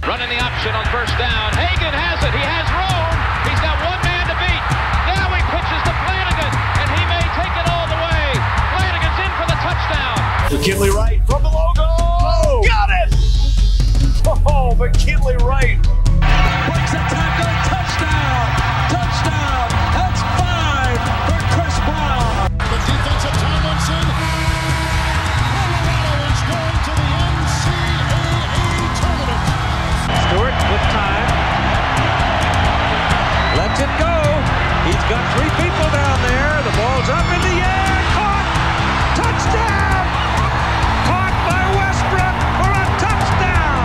Running the option on first down. Hagan has it. He has room. He's got one man to beat. Now he pitches to Flanagan, and he may take it all the way. Flanagan's in for the touchdown. McKinley Wright from the logo. Oh, got it! Oh, McKinley Wright. Breaks a tackle. Touchdown. Touchdown. That's 5 for Chris Brown. The defense of Tomlinson. Colorado is going to the NCAA tournament. Stewart with time. Lets it go. He's got 3 people down there. The ball's up in the air. Caught. Touchdown. Caught by Westbrook for a touchdown.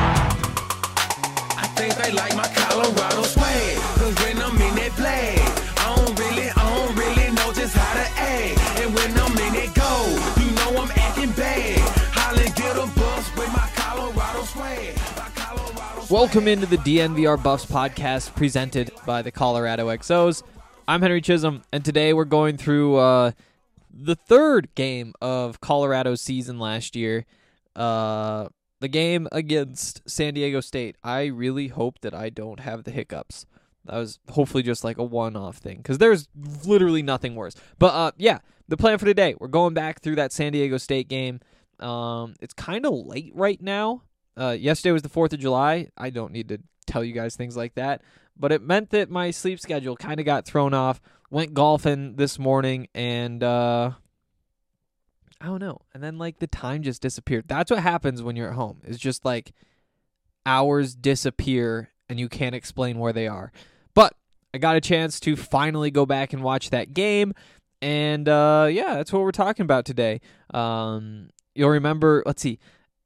I think they like my Colorado swag. Cause when I'm in that flag, I don't really know just how to act. And when I'm in that goal, you know I'm acting bad. Holly get a bus with my Colorado swag. Welcome into the DNVR Buffs podcast presented by the Colorado XOs. I'm Henry Chisholm, and today we're going through the third game of Colorado's season last year, the game against San Diego State. I really hope that I don't have the hiccups. That was hopefully just like a one-off thing, because there's literally nothing worse. But yeah, the plan for today, we're going back through that San Diego State game. It's kind of late right now. Yesterday was the 4th of July. I don't need to tell you guys things like that, but it meant that my sleep schedule kind of got thrown off. Went golfing this morning, and I don't know. And then like the time just disappeared. That's what happens when you're at home. It's just like hours disappear and you can't explain where they are. But I got a chance to finally go back and watch that game, and yeah, that's what we're talking about today. You'll remember, let's see,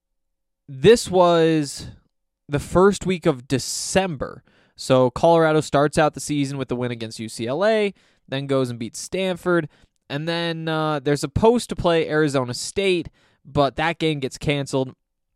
this was the first week of December. So Colorado starts out the season with the win against UCLA, then goes and beats Stanford, and then they're supposed to play Arizona State, but that game gets canceled.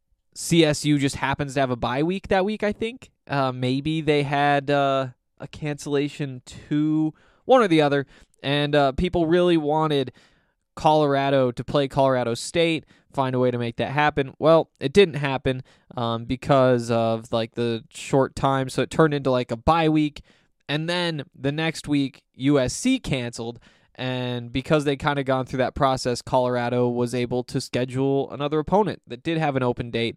CSU just happens to have a bye week that week, I think. Maybe they had a cancellation too, one or the other, and people really wanted Colorado to play Colorado State, find a way to make that happen. Well, it didn't happen because of like the short time, so it turned into like a bye week, and then the next week USC canceled, and because they kind of gone through that process, Colorado was able to schedule another opponent that did have an open date,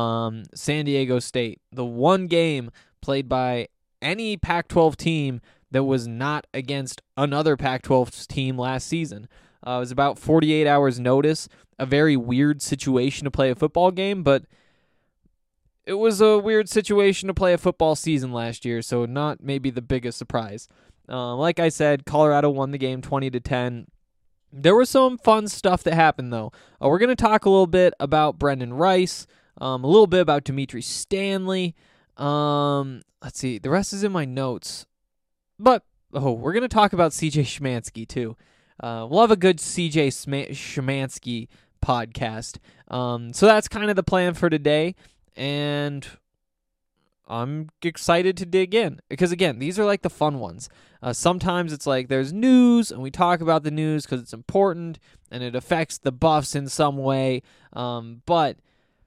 San Diego State, the one game played by any Pac-12 team that was not against another Pac-12 team last season. It was about 48 hours notice, a very weird situation to play a football game, but it was a weird situation to play a football season last year, so not maybe the biggest surprise. Like I said, Colorado won the game 20-10. There was some fun stuff that happened, though. We're going to talk a little bit about Brendan Rice, a little bit about Dimitri Stanley. Let's see, the rest is in my notes. But, we're going to talk about CJ Szymanski, too. We'll have a good CJ Szymanski podcast. So that's kind of the plan for today, and I'm excited to dig in because, again, these are like the fun ones. Sometimes it's like there's news, and we talk about the news because it's important and it affects the Buffs in some way. But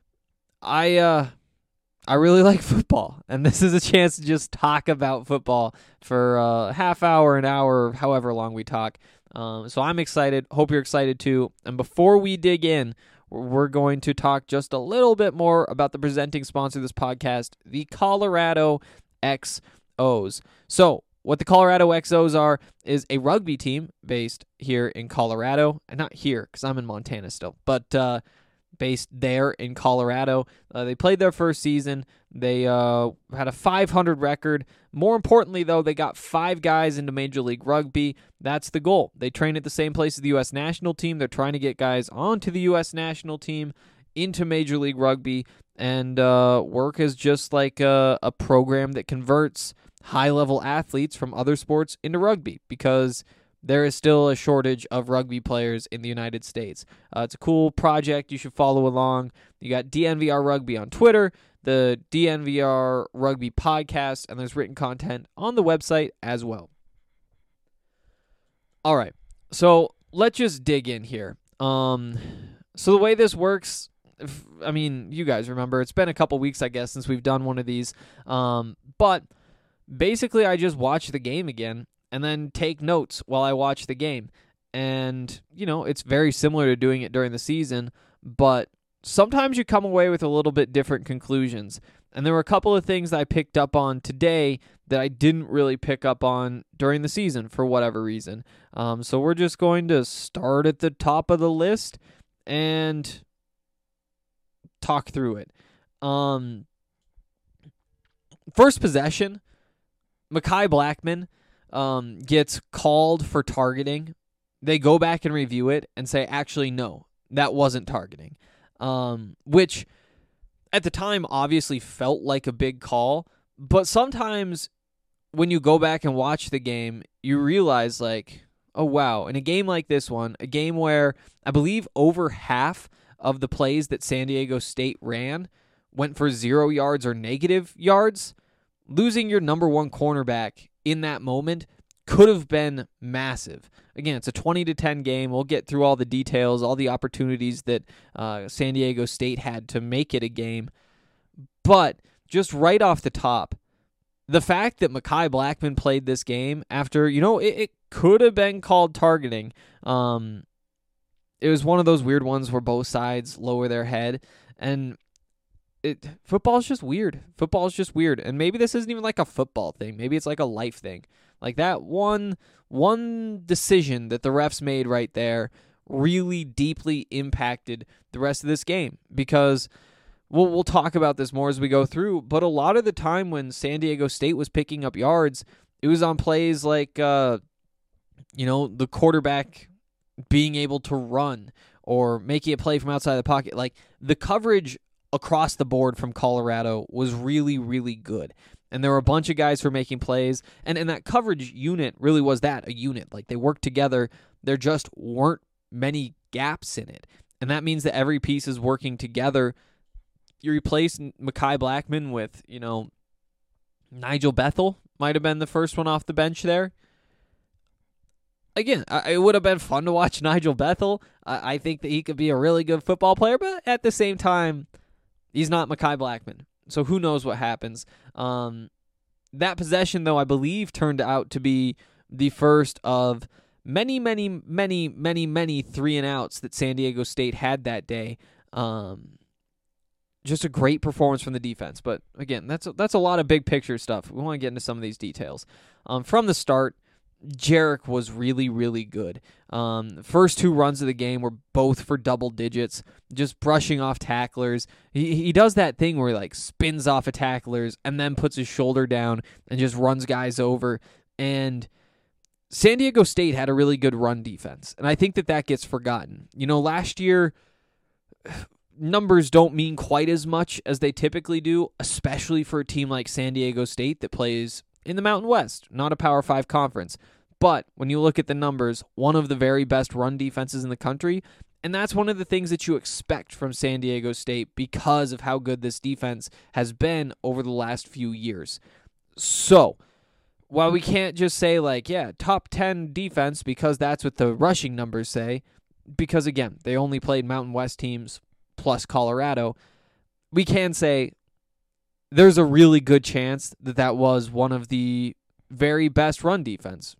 I really like football, and this is a chance to just talk about football for a half hour, an hour, however long we talk. So I'm excited. Hope you're excited too. And before we dig in, we're going to talk just a little bit more about the presenting sponsor of this podcast, the Colorado XOs. So what the Colorado XOs are is a rugby team based here in Colorado. And not here, because I'm in Montana still, but based there in Colorado. They played their first season. They had a 500 record. More importantly, though, they got 5 guys into Major League Rugby. That's the goal. They train at the same place as the U.S. national team. They're trying to get guys onto the U.S. national team, into Major League Rugby, and work as just like a program that converts high-level athletes from other sports into rugby, because there is still a shortage of rugby players in the United States. It's a cool project. You should follow along. You got DNVR Rugby on Twitter, the DNVR Rugby podcast, and there's written content on the website as well. All right, so let's just dig in here. So the way this works, I mean, you guys remember, it's been a couple weeks, I guess, since we've done one of these. But basically, I just watch the game again and then take notes while I watch the game. And, it's very similar to doing it during the season, but sometimes you come away with a little bit different conclusions. And there were a couple of things that I picked up on today that I didn't really pick up on during the season for whatever reason. So we're just going to start at the top of the list and talk through it. First possession, Mekhi Blackmon gets called for targeting. They go back and review it and say, actually, no, that wasn't targeting. Which at the time obviously felt like a big call, but sometimes when you go back and watch the game, you realize like, oh wow, in a game like this one, a game where I believe over half of the plays that San Diego State ran went for 0 yards or negative yards, losing your number one cornerback in that moment could have been massive. Again, it's a 20-10 game. We'll get through all the details, all the opportunities that San Diego State had to make it a game. But just right off the top, the fact that Mekhi Blackmon played this game after, it could have been called targeting. It was one of those weird ones where both sides lower their head, and football's just weird. Football's just weird, and maybe this isn't even like a football thing. Maybe it's like a life thing. Like that one decision that the refs made right there really deeply impacted the rest of this game, because we'll talk about this more as we go through, but a lot of the time when San Diego State was picking up yards, it was on plays like, the quarterback being able to run or making a play from outside the pocket. Like the coverage across the board from Colorado was really, really good. And there were a bunch of guys who were making plays. And that coverage unit really was a unit. Like they worked together. There just weren't many gaps in it. And that means that every piece is working together. You replace Mekhi Blackmon with, Nigel Bethel might have been the first one off the bench there. Again, it would have been fun to watch Nigel Bethel. I think that he could be a really good football player, but at the same time, he's not Mekhi Blackmon. So who knows what happens. That possession, though, I believe turned out to be the first of many 3-and-outs that San Diego State had that day. Just a great performance from the defense. But again, that's a lot of big picture stuff. We want to get into some of these details. From the start, Jarek was really, really good. First two runs of the game were both for double digits, just brushing off tacklers. He does that thing where he like spins off of tacklers and then puts his shoulder down and just runs guys over. And San Diego State had a really good run defense, and I think that gets forgotten. Last year, numbers don't mean quite as much as they typically do, especially for a team like San Diego State that plays in the Mountain West, not a Power 5 conference. But when you look at the numbers, one of the very best run defenses in the country, and that's one of the things that you expect from San Diego State because of how good this defense has been over the last few years. So, while we can't just say top 10 defense because that's what the rushing numbers say, because again, they only played Mountain West teams plus Colorado, we can say there's a really good chance that was one of the very best run defenses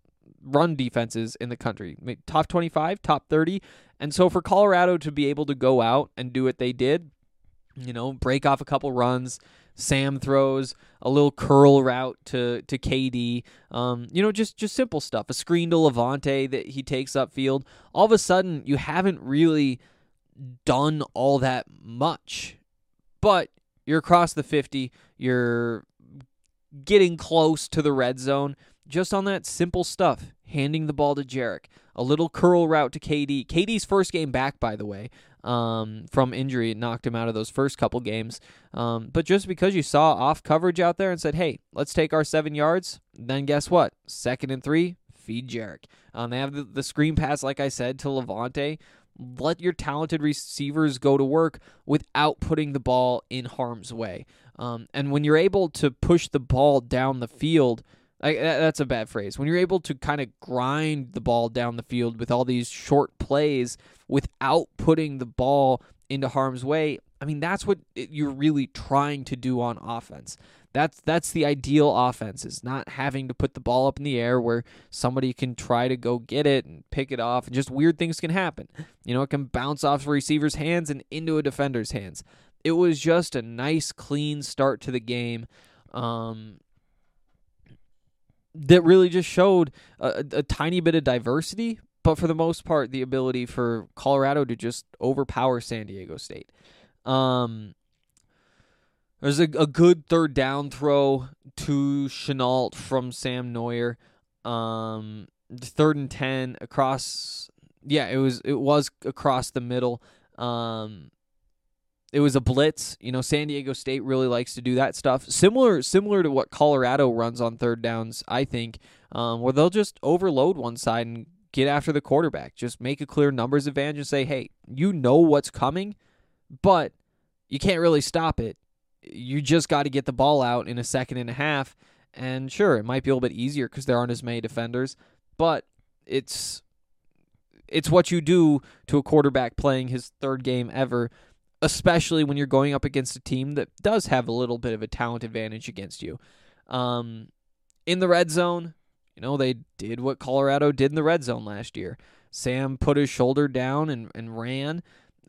in the country. Top 25, top 30. And so for Colorado to be able to go out and do what they did, break off a couple runs, Sam throws a little curl route to KD, just simple stuff. A screen to Levante that he takes upfield. All of a sudden, you haven't really done all that much, but you're across the 50. You're getting close to the red zone just on that simple stuff. Handing the ball to Jarek. A little curl route to KD. KD's first game back, by the way, from injury. It knocked him out of those first couple games. But just because you saw off coverage out there and said, hey, let's take our 7 yards, then guess what? 2nd and 3, feed Jarek. They have the screen pass, like I said, to Levante. Let your talented receivers go to work without putting the ball in harm's way. And when you're able to push the ball down the field, that's a bad phrase. When you're able to kind of grind the ball down the field with all these short plays without putting the ball into harm's way, I mean, that's what you're really trying to do on offense. That's the ideal offense, is not having to put the ball up in the air where somebody can try to go get it and pick it off, and just weird things can happen. It can bounce off the receiver's hands and into a defender's hands. It was just a nice, clean start to the game that really just showed a tiny bit of diversity, but for the most part, the ability for Colorado to just overpower San Diego State. There's a good third down throw to Chenault from Sam Neuer. 3rd and 10 across. Yeah, it was across the middle. It was a blitz. San Diego State really likes to do that stuff. Similar to what Colorado runs on third downs, I think, where they'll just overload one side and get after the quarterback. Just make a clear numbers advantage and say, hey, you know what's coming, but you can't really stop it. You just got to get the ball out in a second and a half. And sure, it might be a little bit easier because there aren't as many defenders, but it's what you do to a quarterback playing his third game ever, especially when you're going up against a team that does have a little bit of a talent advantage against you. In the red zone, they did what Colorado did in the red zone last year. Sam put his shoulder down and ran.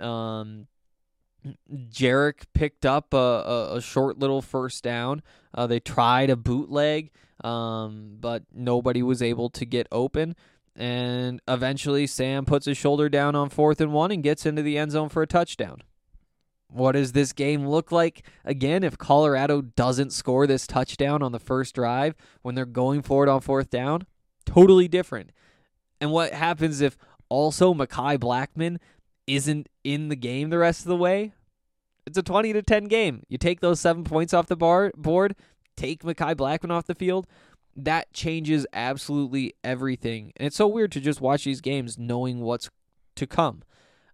Jarek picked up a short little first down. They tried a bootleg, but nobody was able to get open. And eventually Sam puts his shoulder down on 4th and 1 and gets into the end zone for a touchdown. What does this game look like? Again, if Colorado doesn't score this touchdown on the first drive when they're going for it on 4th down, totally different. And what happens if also Mekhi Blackmon isn't in the game the rest of the way? It's a 20-10 game. You take those 7 points off the board, take Mekhi Blackmon off the field, that changes absolutely everything. And it's so weird to just watch these games knowing what's to come.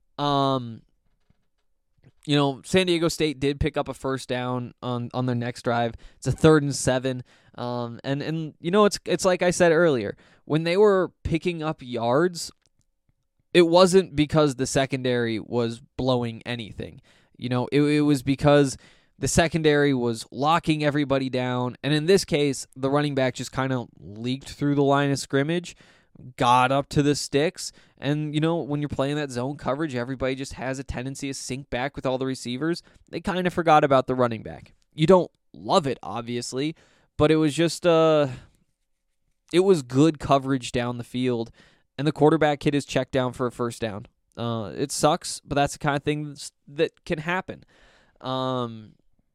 San Diego State did pick up a first down on their next drive. It's a 3rd and 7. And it's like I said earlier, when they were picking up yards, it wasn't because the secondary was blowing anything. It was because the secondary was locking everybody down. And in this case, the running back just kind of leaked through the line of scrimmage, got up to the sticks. And, when you're playing that zone coverage, everybody just has a tendency to sink back with all the receivers. They kind of forgot about the running back. You don't love it, obviously, but it was just it was good coverage down the field. And the quarterback hit his check down for a first down. It sucks, but that's the kind of thing that can happen. From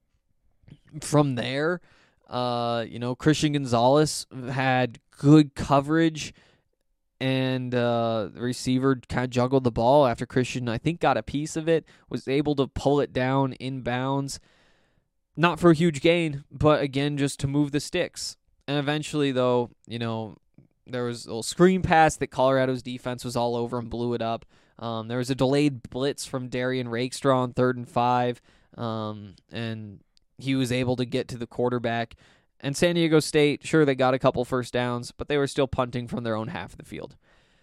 there, Christian Gonzalez had good coverage, and the receiver kind of juggled the ball after Christian, I think, got a piece of it, was able to pull it down inbounds. Not for a huge gain, but again, just to move the sticks. And eventually, though, there was a little screen pass that Colorado's defense was all over and blew it up. There was a delayed blitz from Darian Rakestraw on 3rd and 5, and he was able to get to the quarterback. And San Diego State, sure, they got a couple first downs, but they were still punting from their own half of the field.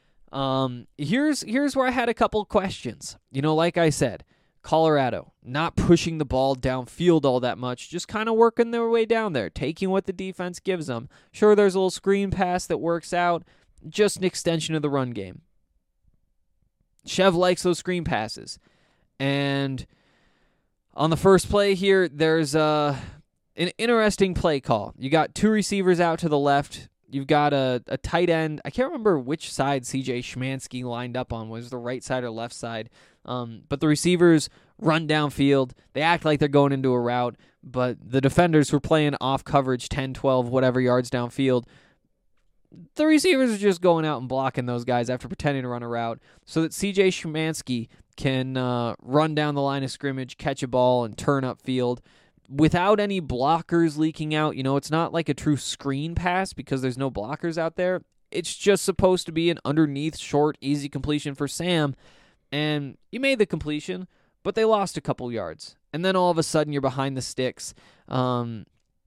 Here's where I had a couple questions. Like I said, Colorado not pushing the ball downfield all that much, just kind of working their way down there, taking what the defense gives them. Sure, there's a little screen pass that works out, just an extension of the run game. Chev likes those screen passes. And on the first play here, there's an interesting play call. You got 2 receivers out to the left. You've got a tight end. I can't remember which side C.J. Szymanski lined up on, was the right side or left side. But the receivers run downfield. They act like they're going into a route, but the defenders were playing off coverage 10, 12, whatever yards downfield. The receivers are just going out and blocking those guys after pretending to run a route so that C.J. Szymanski can run down the line of scrimmage, catch a ball, and turn upfield without any blockers leaking out. It's not like a true screen pass because there's no blockers out there. It's just supposed to be an underneath, short, easy completion for Sam. And you made the completion, but they lost a couple yards. And then all of a sudden you're behind the sticks. And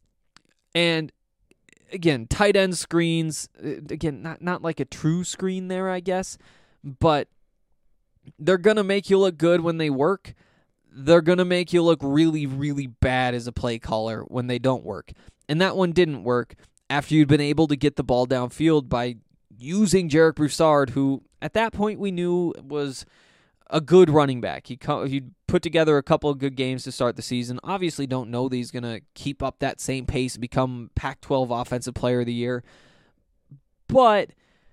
again, tight end screens, again, not like a true screen there, I guess, but they're going to make you look good when they work. they're going to make you look really, really bad as a play caller when they don't work. And that one didn't work after you'd been able to get the ball downfield by using Jarek Broussard, who at that point we knew was a good running back. He'd put together a couple of good games to start the season. Obviously don't know that he's going to keep up that same pace and become Pac-12 Offensive Player of the Year. But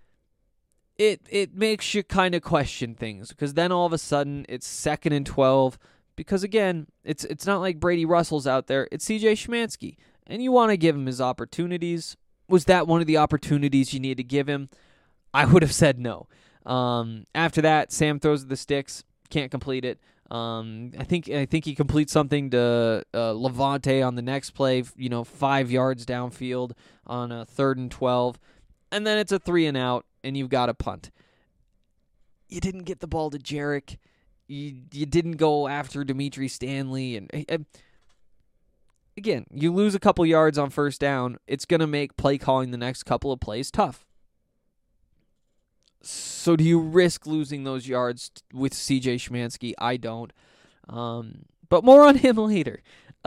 it makes you kind of question things, because then all of a sudden it's 2nd and 12, because again, it's not like Brady Russell's out there, it's CJ Szymanski, and you want to give him his opportunities. Was that one of the opportunities you need to give him? I would have said no. After that, Sam throws the sticks, can't complete it. I think he completes something to Levante on the next play, 5 yards downfield on a 3rd and 12, and then it's a 3 and out, and you've got a punt. You didn't get the ball to Jarek. You didn't go after Dimitri Stanley, and again, you lose a couple yards on first down. It's going to make play calling the next couple of plays tough. So do you risk losing those yards with CJ Szymanski? I don't. But more on him later.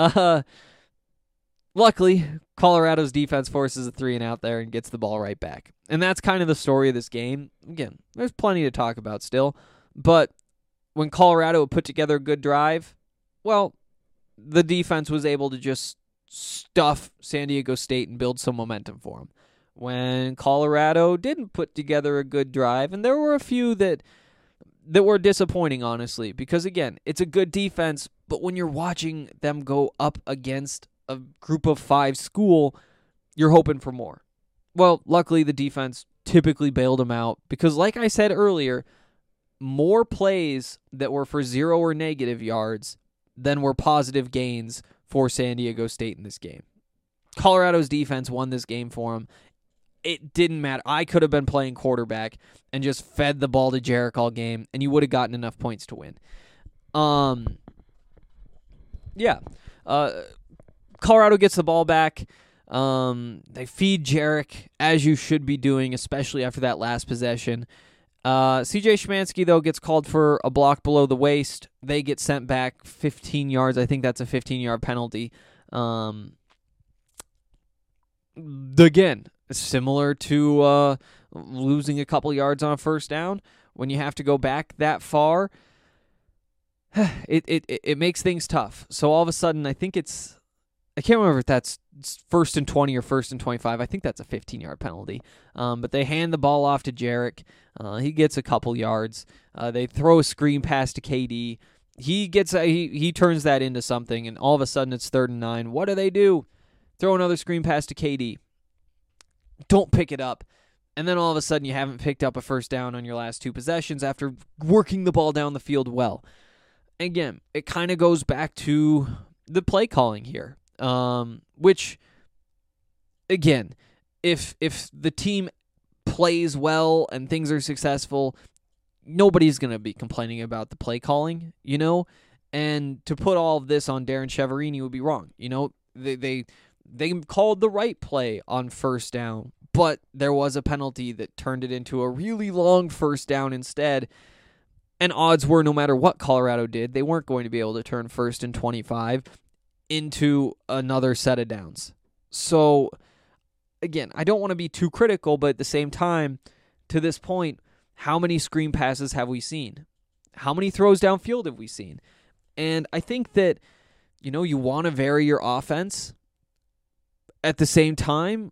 Luckily, Colorado's defense forces a 3 and out there and gets the ball right back. And that's kind of the story of this game. Again, there's plenty to talk about still. But when Colorado put together a good drive, well, the defense was able to just stuff San Diego State and build some momentum for them. When Colorado didn't put together a good drive, and there were a few that were disappointing, honestly, because again, it's a good defense, but when you're watching them go up against a group of 5 school, you're hoping for more. Well, luckily the defense typically bailed them out, because like I said earlier, more plays that were for 0 or negative yards than were positive gains for San Diego State in this game. Colorado's defense won this game for them. It didn't matter. I could have been playing quarterback and just fed the ball to Jarek all game, and you would have gotten enough points to win. Colorado gets the ball back. They feed Jarek, as you should be doing, especially after that last possession. CJ Szymanski, though, gets called for a block below the waist. They get sent back 15 yards. I think that's a 15-yard penalty. Again, similar to losing a couple yards on a first down. When you have to go back that far, it makes things tough. So all of a sudden, I think I can't remember if that's 1st and 20 or 1st and 25. I think that's a 15-yard penalty. But they hand the ball off to Jarek. He gets a couple yards. They throw a screen pass to KD. He turns that into something, and all of a sudden it's 3rd and 9. What do? Throw another screen pass to KD. Don't pick it up. And then all of a sudden you haven't picked up a first down on your last 2 possessions after working the ball down the field well. Again, it kind of goes back to the play calling here. Which, again, if the team plays well and things are successful, nobody's going to be complaining about the play calling, And to put all of this on Darren Chiaverini would be wrong. They called the right play on first down, but there was a penalty that turned it into a really long first down instead. And odds were, no matter what Colorado did, they weren't going to be able to turn 1st and 25 into another set of downs. So, again, I don't want to be too critical, but at the same time, to this point, how many screen passes have we seen? How many throws downfield have we seen? And I think that, you want to vary your offense. At the same time,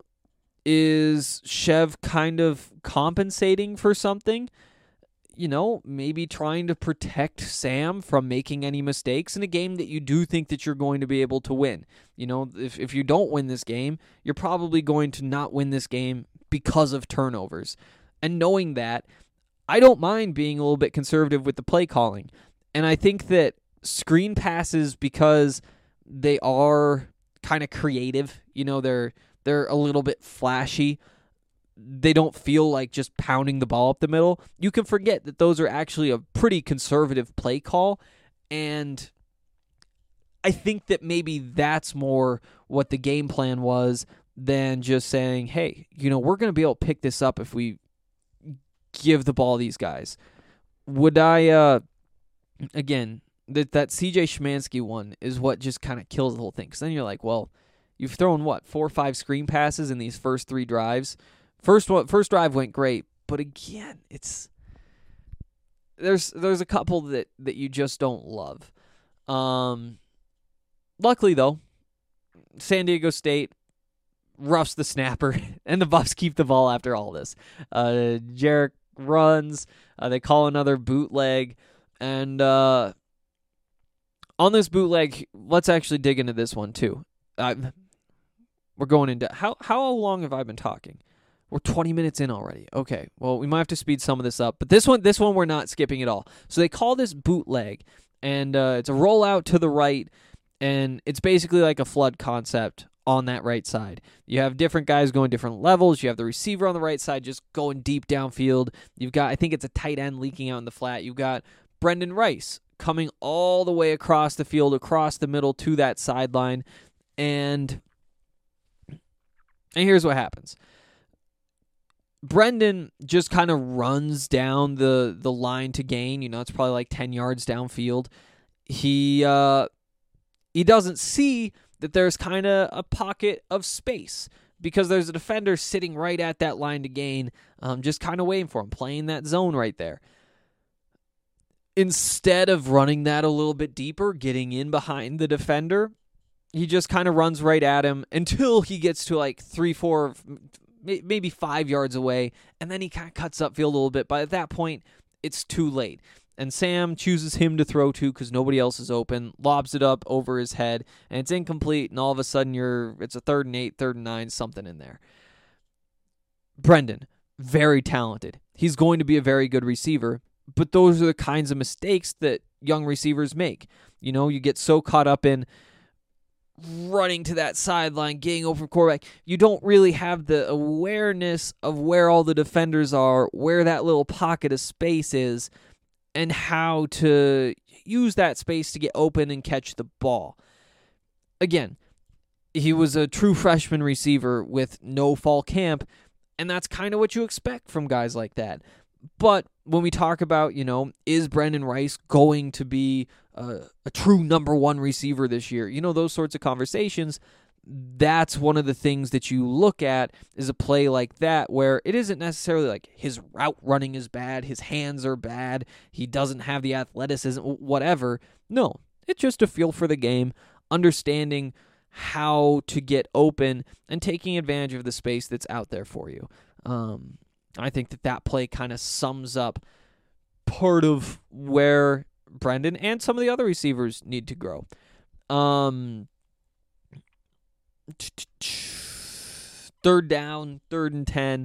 is Chev kind of compensating for something? Maybe trying to protect Sam from making any mistakes in a game that you do think that you're going to be able to win. If you don't win this game, you're probably going to not win this game because of turnovers. And knowing that, I don't mind being a little bit conservative with the play calling. And I think that screen passes, because they are kind of creative, they're a little bit flashy. They don't feel like just pounding the ball up the middle. You can forget that those are actually a pretty conservative play call, and I think that maybe that's more what the game plan was than just saying, hey, we're going to be able to pick this up if we give the ball to these guys. Would I, again, that CJ Szymanski one is what just kind of kills the whole thing. Because then you're like, well, you've thrown, 4 or 5 screen passes in these first 3 drives. First drive went great, but again, there's a couple that you just don't love. Luckily, though, San Diego State roughs the snapper, and the Buffs keep the ball after all this. Jarek runs. They call another bootleg. And on this bootleg, let's actually dig into this one, too. We're going into... How long have I been talking? We're 20 minutes in already. Okay, well, we might have to speed some of this up. But this one we're not skipping at all. So they call this bootleg, and it's a rollout to the right, and it's basically like a flood concept on that right side. You have different guys going different levels. You have the receiver on the right side just going deep downfield. You've got, I think it's a tight end leaking out in the flat. You've got Brendan Rice coming all the way across the field, across the middle to that sideline. And here's what happens. Brendan just kind of runs down the line to gain. It's probably like 10 yards downfield. He doesn't see that there's kind of a pocket of space because there's a defender sitting right at that line to gain, just kind of waiting for him, playing that zone right there. Instead of running that a little bit deeper, getting in behind the defender, he just kind of runs right at him until he gets to like 3, 4, maybe 5 yards away, and then he kind of cuts upfield a little bit. But at that point, it's too late. And Sam chooses him to throw to because nobody else is open, lobs it up over his head, and it's incomplete, and all of a sudden it's a 3rd and 8, 3rd and 9, something in there. Brendan, very talented. He's going to be a very good receiver, but those are the kinds of mistakes that young receivers make. You get so caught up in running to that sideline, getting over quarterback. You don't really have the awareness of where all the defenders are, where that little pocket of space is, and how to use that space to get open and catch the ball. Again, he was a true freshman receiver with no fall camp, and that's kind of what you expect from guys like that. But when we talk about, is Brendan Rice going to be a true number 1 receiver this year? Those sorts of conversations, that's one of the things that you look at is a play like that where it isn't necessarily like his route running is bad, his hands are bad, he doesn't have the athleticism, whatever. No, it's just a feel for the game, understanding how to get open and taking advantage of the space that's out there for you. I think that play kind of sums up part of where Brendan and some of the other receivers need to grow. 3rd down, 3rd and 10,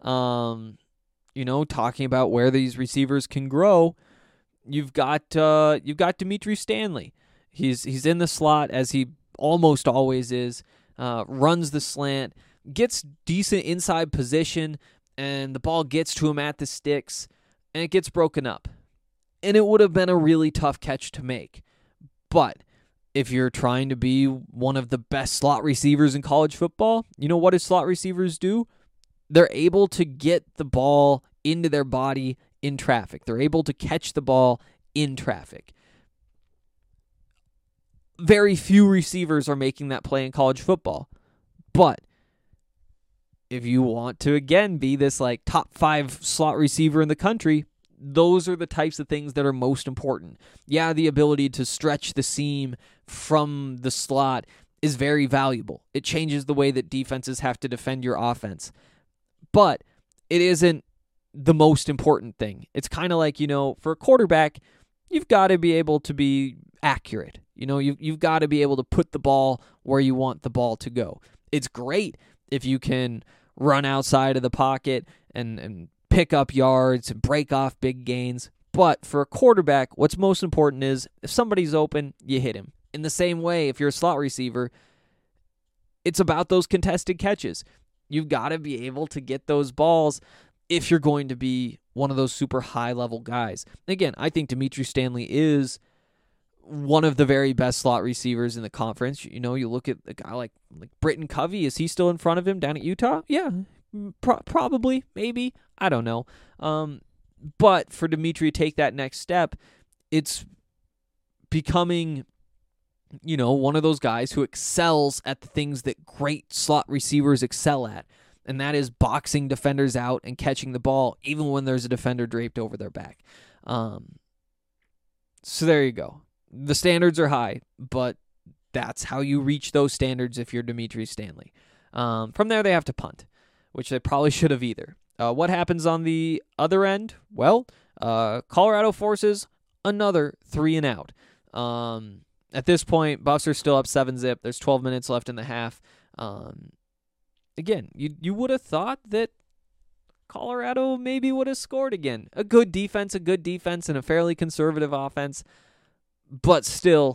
talking about where these receivers can grow. You've got Dimitri Stanley. He's in the slot as he almost always is, runs the slant, gets decent inside position, and the ball gets to him at the sticks, and it gets broken up. And it would have been a really tough catch to make. But if you're trying to be one of the best slot receivers in college football, what do slot receivers do? They're able to get the ball into their body in traffic. They're able to catch the ball in traffic. Very few receivers are making that play in college football. But if you want to, again, be this like top 5 slot receiver in the country, those are the types of things that are most important. Yeah, the ability to stretch the seam from the slot is very valuable. It changes the way that defenses have to defend your offense. But it isn't the most important thing. It's kind of like, for a quarterback, you've got to be able to be accurate. You've got to be able to put the ball where you want the ball to go. It's great if you can run outside of the pocket and pick up yards and break off big gains. But for a quarterback, what's most important is if somebody's open, you hit him. In the same way, if you're a slot receiver, it's about those contested catches. You've got to be able to get those balls if you're going to be one of those super high-level guys. Again, I think Dimitri Stanley is one of the very best slot receivers in the conference. You look at a guy like Britton Covey. Is he still in front of him down at Utah? Yeah, probably, maybe. I don't know. But for Dimitri to take that next step, it's becoming, one of those guys who excels at the things that great slot receivers excel at, and that is boxing defenders out and catching the ball even when there's a defender draped over their back. So there you go. The standards are high, but that's how you reach those standards if you're Dimitri Stanley. From there, they have to punt, which they probably should have either. What happens on the other end? Well, Colorado forces another 3 and out. At this point, Buffs are still up 7-0. There's 12 minutes left in the half. Again, you would have thought that Colorado maybe would have scored again. A good defense, and a fairly conservative offense. But still,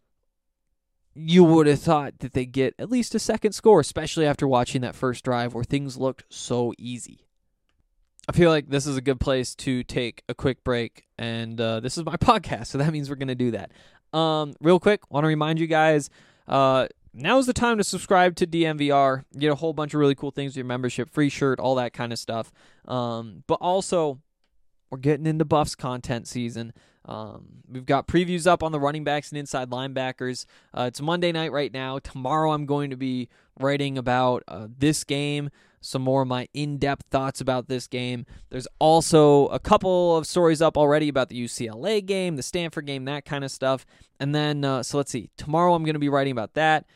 you would have thought that they'd get at least a second score, especially after watching that first drive where things looked so easy. I feel like this is a good place to take a quick break, and this is my podcast, so that means we're going to do that. Real quick, want to remind you guys, now's the time to subscribe to DNVR. You get a whole bunch of really cool things with your membership, free shirt, all that kind of stuff. But also, we're getting into Buffs content season. We've got previews up on the running backs and inside linebackers. It's Monday night right now. Tomorrow I'm going to be writing about this game, some more of my in-depth thoughts about this game. There's also a couple of stories up already about the UCLA game, the Stanford game, that kind of stuff. And then, so let's see. Tomorrow I'm going to be writing about that.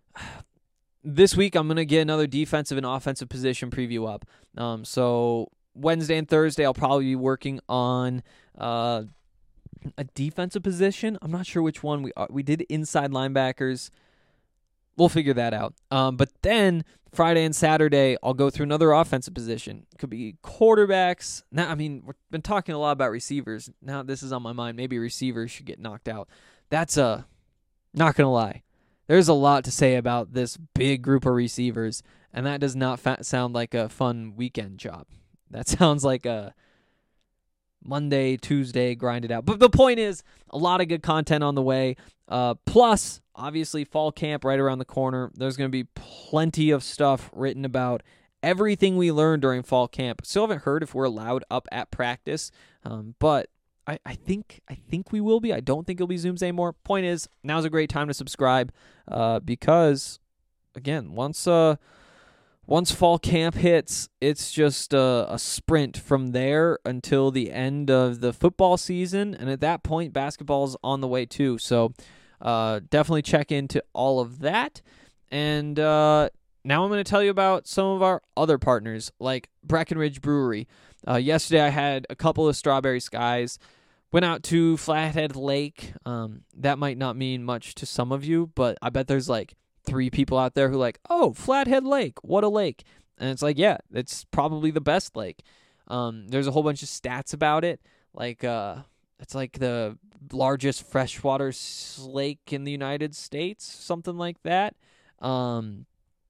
This week I'm going to get another defensive and offensive position preview up. So Wednesday and Thursday I'll probably be working on a defensive position. I'm not sure which one. We did inside linebackers. We'll figure that out. But then Friday and Saturday, I'll go through another offensive position. Could be quarterbacks. Now, we've been talking a lot about receivers. Now this is on my mind. Maybe receivers should get knocked out. That's not going to lie. There's a lot to say about this big group of receivers, and that does not sound like a fun weekend job. That sounds like a Monday, Tuesday, grind it out. But the point is, a lot of good content on the way. Plus, obviously, fall camp right around the corner. There's going to be plenty of stuff written about everything we learned during fall camp. Still haven't heard if we're allowed up at practice, but I think we will be. I don't think it'll be Zooms anymore. Point is, now's a great time to subscribe because, again, once fall camp hits, it's just a sprint from there until the end of the football season. And at that point, basketball's on the way too. So definitely check into all of that. And now I'm going to tell you about some of our other partners, like Breckenridge Brewery. Yesterday I had a couple of Strawberry Skies. Went out to Flathead Lake. That might not mean much to some of you, but I bet there's like 3 people out there who like, oh, Flathead Lake, what a lake. And it's like, yeah, it's probably the best lake. There's a whole bunch of stats about it. Like, it's like the largest freshwater lake in the United States, something like that. You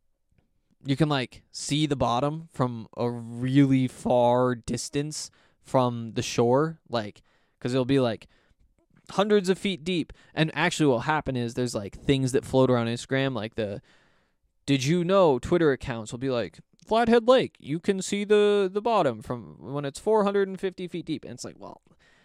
can like see the bottom from a really far distance from the shore, like, because it'll be like hundreds of feet deep. And actually what will happen is there's like things that float around Instagram, like the did you know Twitter accounts will be like, Flathead Lake, you can see the bottom from when it's 450 feet deep. And it's like, well,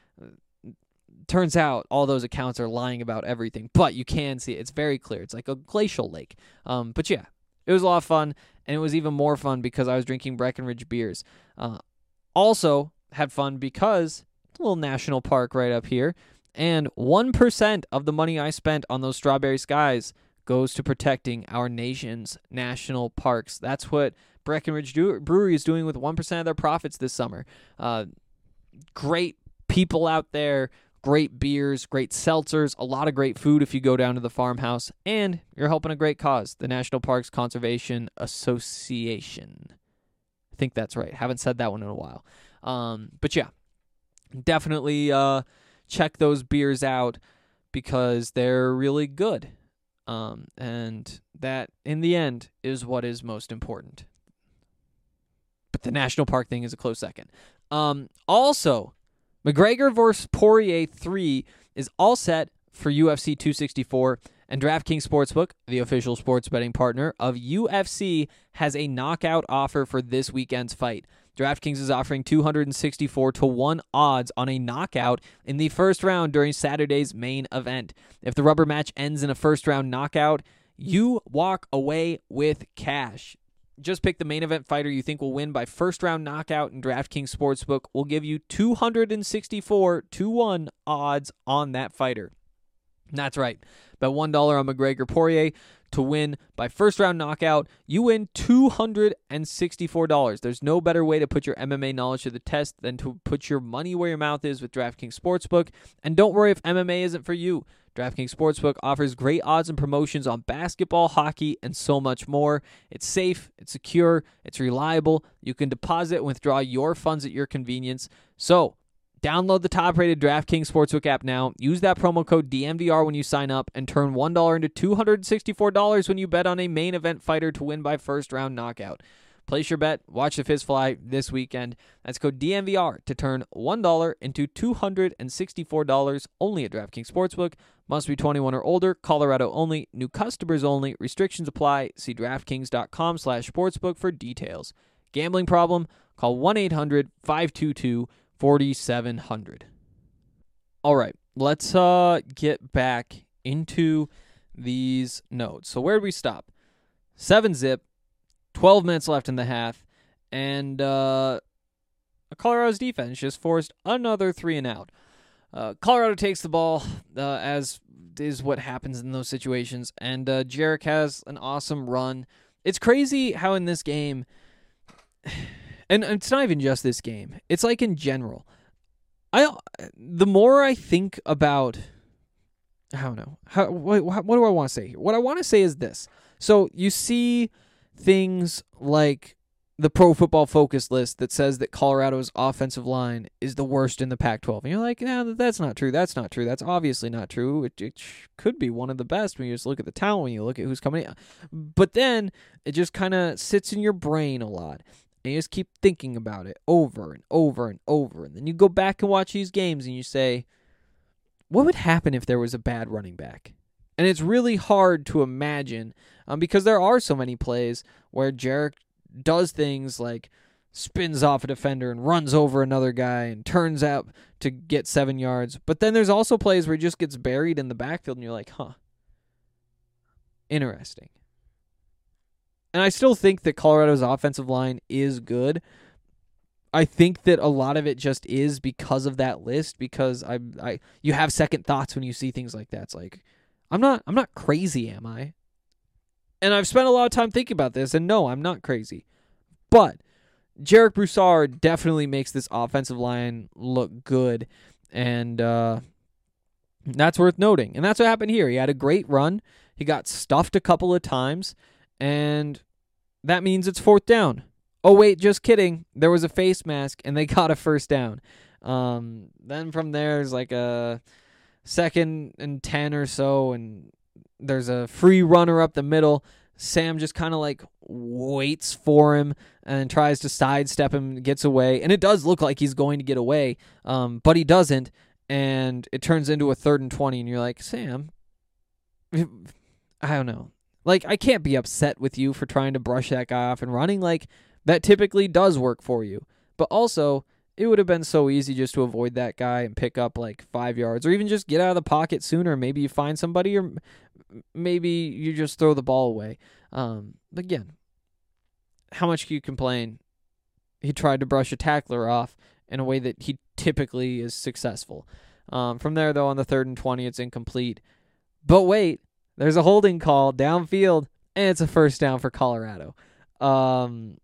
turns out all those accounts are lying about everything, but you can see it. It's very clear. It's like a glacial lake. But yeah, it was a lot of fun, and it was even more fun because I was drinking Breckenridge beers. Also had fun because it's a little national park right up here, and 1% of the money I spent on those Strawberry Skies goes to protecting our nation's national parks. That's what Breckenridge Brewery is doing with 1% of their profits this summer. Great people out there, great beers, great seltzers, a lot of great food if you go down to the farmhouse, and you're helping a great cause, the National Parks Conservation Association. I think that's right. Haven't said that one in a while. But yeah, definitely check those beers out because they're really good. And that, in the end, is what is most important. But the national park thing is a close second. Also, McGregor vs. Poirier 3 is all set for UFC 264, and DraftKings Sportsbook, the official sports betting partner of UFC, has a knockout offer for this weekend's fight. DraftKings is offering 264-1 odds on a knockout in the first round during Saturday's main event. If the rubber match ends in a first-round knockout, you walk away with cash. Just pick the main event fighter you think will win by first-round knockout, and DraftKings Sportsbook will give you 264-1 odds on that fighter. That's right. Bet $1 on McGregor Poirier to win by first-round knockout. You win $264. There's no better way to put your MMA knowledge to the test than to put your money where your mouth is with DraftKings Sportsbook. And don't worry if MMA isn't for you. DraftKings Sportsbook offers great odds and promotions on basketball, hockey, and so much more. It's safe, it's secure, it's reliable. You can deposit and withdraw your funds at your convenience. So, download the top-rated DraftKings Sportsbook app now. Use that promo code DNVR when you sign up and turn $1 into $264 when you bet on a main event fighter to win by first-round knockout. Place your bet. Watch the fist fly this weekend. That's code DNVR to turn $1 into $264 only at DraftKings Sportsbook. Must be 21 or older. Colorado only. New customers only. Restrictions apply. See DraftKings.com/sportsbook for details. Gambling problem? Call 1-800-522-4700. All right, let's get back into these notes. So where did we stop? 7-zip, 12 minutes left in the half, and Colorado's defense just forced another 3-and-out. Colorado takes the ball, as is what happens in those situations, and Jarek has an awesome run. It's crazy how in this game, and it's not even just this game, it's like in general, the more I think about, I don't know, what do I want to say here? What I want to say is this. So you see things like the Pro Football Focus list that says that Colorado's offensive line is the worst in the Pac-12. And you're like, no, that's not true. That's not true. That's obviously not true. It could be one of the best when you just look at the talent, when you look at who's coming in. But then it just kind of sits in your brain a lot. And you just keep thinking about it over and over and over. And then you go back and watch these games and you say, what would happen if there was a bad running back? And it's really hard to imagine because there are so many plays where Jarek does things like spins off a defender and runs over another guy and turns out to get 7 yards. But then there's also plays where he just gets buried in the backfield and you're like, interesting. And I still think that Colorado's offensive line is good. I think that a lot of it just is because of that list, because you have second thoughts when you see things like that. It's like, I'm not crazy, am I? And I've spent a lot of time thinking about this, and no, I'm not crazy. But Jarek Broussard definitely makes this offensive line look good, and that's worth noting. And that's what happened here. He had a great run. He got stuffed a couple of times, and that means it's 4th down. Oh, wait, just kidding. There was a face mask, and they got a first down. Then from there, there's like a 2nd and 10 or so, and there's a free runner up the middle. Sam just kind of like waits for him and tries to sidestep him, gets away. And it does look like he's going to get away, but he doesn't. And it turns into a 3rd and 20, and you're like, Sam, I don't know. Like, I can't be upset with you for trying to brush that guy off and running. Like, that typically does work for you. But also, it would have been so easy just to avoid that guy and pick up like 5 yards, or even just get out of the pocket sooner. Maybe you find somebody, or maybe you just throw the ball away. Again, how much can you complain? He tried to brush a tackler off in a way that he typically is successful. From there, though, on the 3rd and 20, it's incomplete. But wait, there's a holding call downfield, and it's a first down for Colorado. Levante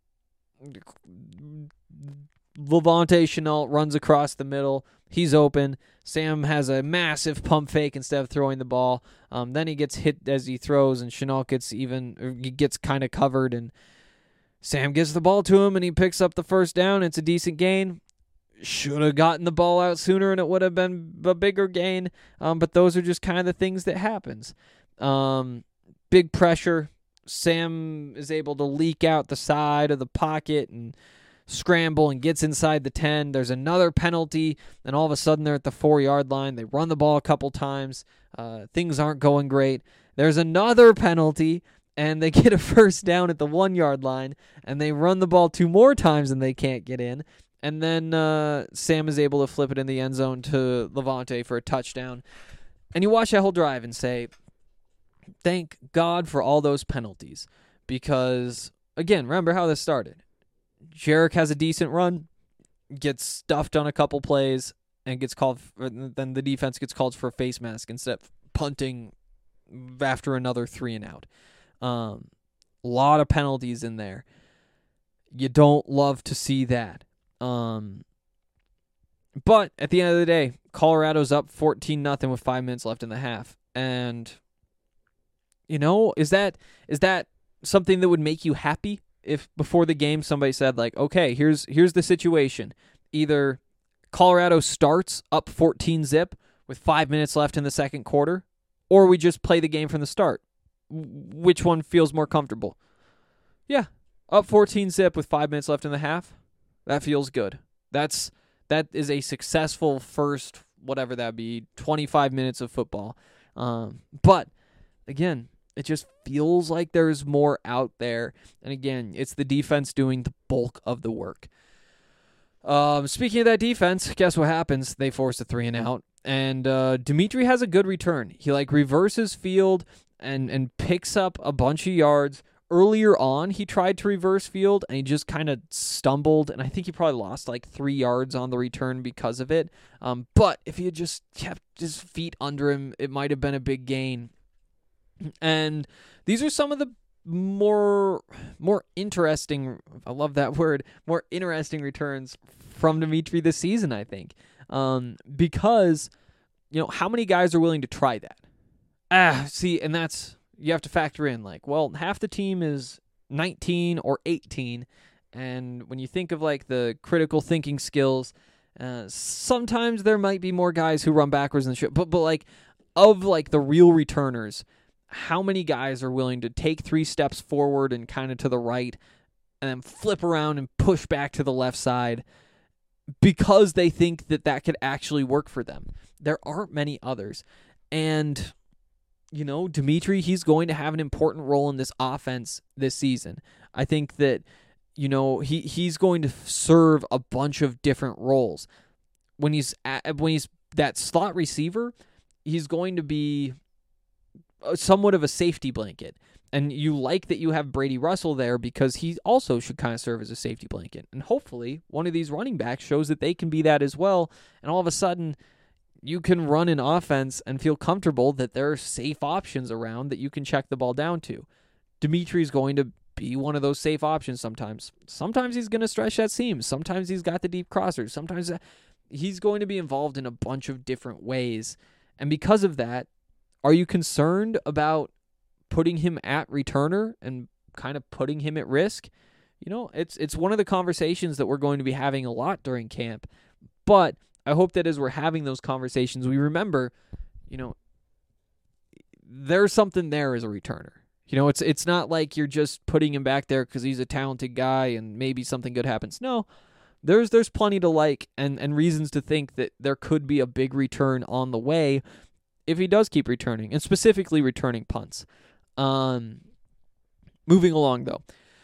Chenault runs across the middle. He's open. Sam has a massive pump fake instead of throwing the ball. Then he gets hit as he throws, and Chenault gets kind of covered, and Sam gets the ball to him, and he picks up the first down. It's a decent gain. Should have gotten the ball out sooner, and it would have been a bigger gain. But those are just kind of the things that happens. Big pressure. Sam is able to leak out the side of the pocket and scramble and gets inside the 10. There's another penalty, and all of a sudden they're at the 4-yard line. They run the ball a couple times. Things aren't going great. There's another penalty, and they get a first down at the 1-yard line, and they run the ball 2 more times and they can't get in. And then Sam is able to flip it in the end zone to Levante for a touchdown. And you watch that whole drive and say, thank God for all those penalties. Because, again, remember how this started. Jarek has a decent run, gets stuffed on a couple plays, and gets called. Then the defense gets called for a face mask instead of punting after another 3-and-out. A lot of penalties in there. You don't love to see that. But at the end of the day, Colorado's up 14-0 with 5 minutes left in the half. And, is that something that would make you happy if before the game somebody said, like, okay, here's the situation. Either Colorado starts up 14-0 with 5 minutes left in the second quarter, or we just play the game from the start. Which one feels more comfortable? Yeah, up 14-0 with 5 minutes left in the half. That feels good. That is a successful first, whatever that be, 25 minutes of football. But, again, it just feels like there's more out there. And, again, it's the defense doing the bulk of the work. Speaking of that defense, guess what happens? They force a 3-and-out. And Dimitri has a good return. He, reverses field and picks up a bunch of yards. Earlier on, he tried to reverse field, and he just kind of stumbled, and I think he probably lost 3 yards on the return because of it. But if he had just kept his feet under him, it might have been a big gain. And these are some of the more interesting, I love that word, more interesting returns from Dimitri this season, I think. Because, how many guys are willing to try that? And that's... You have to factor in, half the team is 19 or 18, and when you think of, the critical thinking skills, sometimes there might be more guys who run backwards than should, but of, the real returners, how many guys are willing to take 3 steps forward and kind of to the right, and then flip around and push back to the left side, because they think that could actually work for them? There aren't many others, and... Dimitri, he's going to have an important role in this offense this season. I think that, he's going to serve a bunch of different roles. When he's that slot receiver, he's going to be somewhat of a safety blanket. And you like that you have Brady Russell there because he also should kind of serve as a safety blanket. And hopefully one of these running backs shows that they can be that as well. And all of a sudden, you can run an offense and feel comfortable that there are safe options around that you can check the ball down to. Dimitri's going to be one of those safe options sometimes. Sometimes he's going to stretch that seam. Sometimes he's got the deep crossers. Sometimes he's going to be involved in a bunch of different ways. And because of that, are you concerned about putting him at returner and kind of putting him at risk? It's one of the conversations that we're going to be having a lot during camp. But I hope that as we're having those conversations, we remember, there's something there as a returner. It's not like you're just putting him back there because he's a talented guy and maybe something good happens. No, there's plenty to like and reasons to think that there could be a big return on the way if he does keep returning, and specifically returning punts. Moving along, though.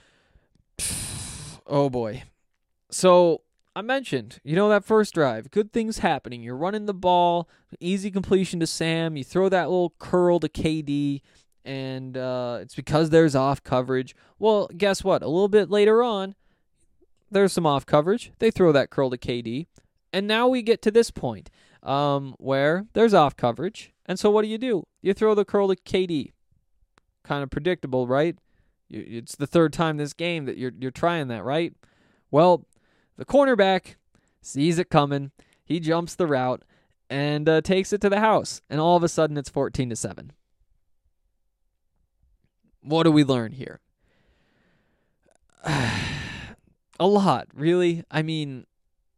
Oh, boy. So... I mentioned, that first drive, good things happening. You're running the ball, easy completion to Sam. You throw that little curl to KD, and it's because there's off coverage. Well, guess what? A little bit later on, there's some off coverage. They throw that curl to KD, and now we get to this point where there's off coverage. And so what do? You throw the curl to KD. Kind of predictable, right? It's the third time this game that you're trying that, right? Well, the cornerback sees it coming. He jumps the route and takes it to the house. And all of a sudden, it's 14-7. What do we learn here? A lot, really. I mean,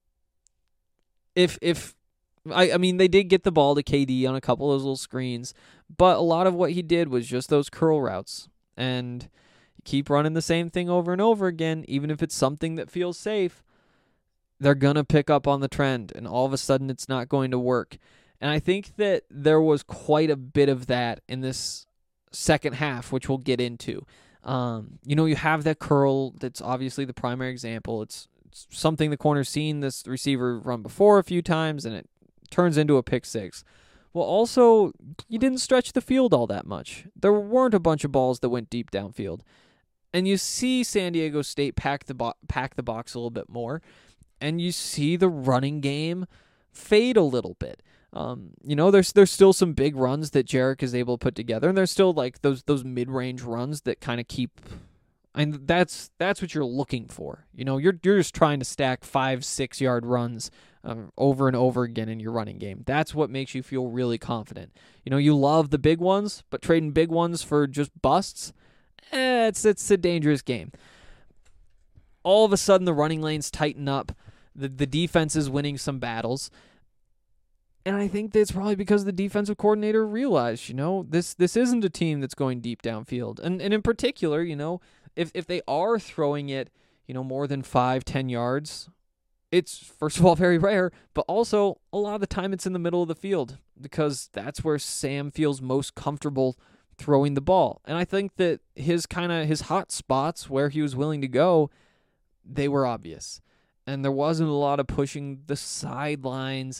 they did get the ball to KD on a couple of those little screens, but a lot of what he did was just those curl routes. And you keep running the same thing over and over again, even if it's something that feels safe. They're going to pick up on the trend, and all of a sudden it's not going to work. And I think that there was quite a bit of that in this second half, which we'll get into. You have that curl that's obviously the primary example. It's something the corner's seen this receiver run before a few times, and it turns into a pick six. Well, also, you didn't stretch the field all that much. There weren't a bunch of balls that went deep downfield. And you see San Diego State pack the box a little bit more, and you see the running game fade a little bit. There's still some big runs that Jarek is able to put together, and there's still like those mid-range runs that kind of keep. And that's what you're looking for. You're just trying to stack 5-6 yard runs over and over again in your running game. That's what makes you feel really confident. You love the big ones, but trading big ones for just busts, it's a dangerous game. All of a sudden, the running lanes tighten up. The defense is winning some battles. And I think that's probably because the defensive coordinator realized, this isn't a team that's going deep downfield. And in particular, if they are throwing it, more than 5-10 yards, it's, first of all, very rare, but also a lot of the time it's in the middle of the field because that's where Sam feels most comfortable throwing the ball. And I think that his hot spots where he was willing to go, they were obvious. And there wasn't a lot of pushing the sidelines.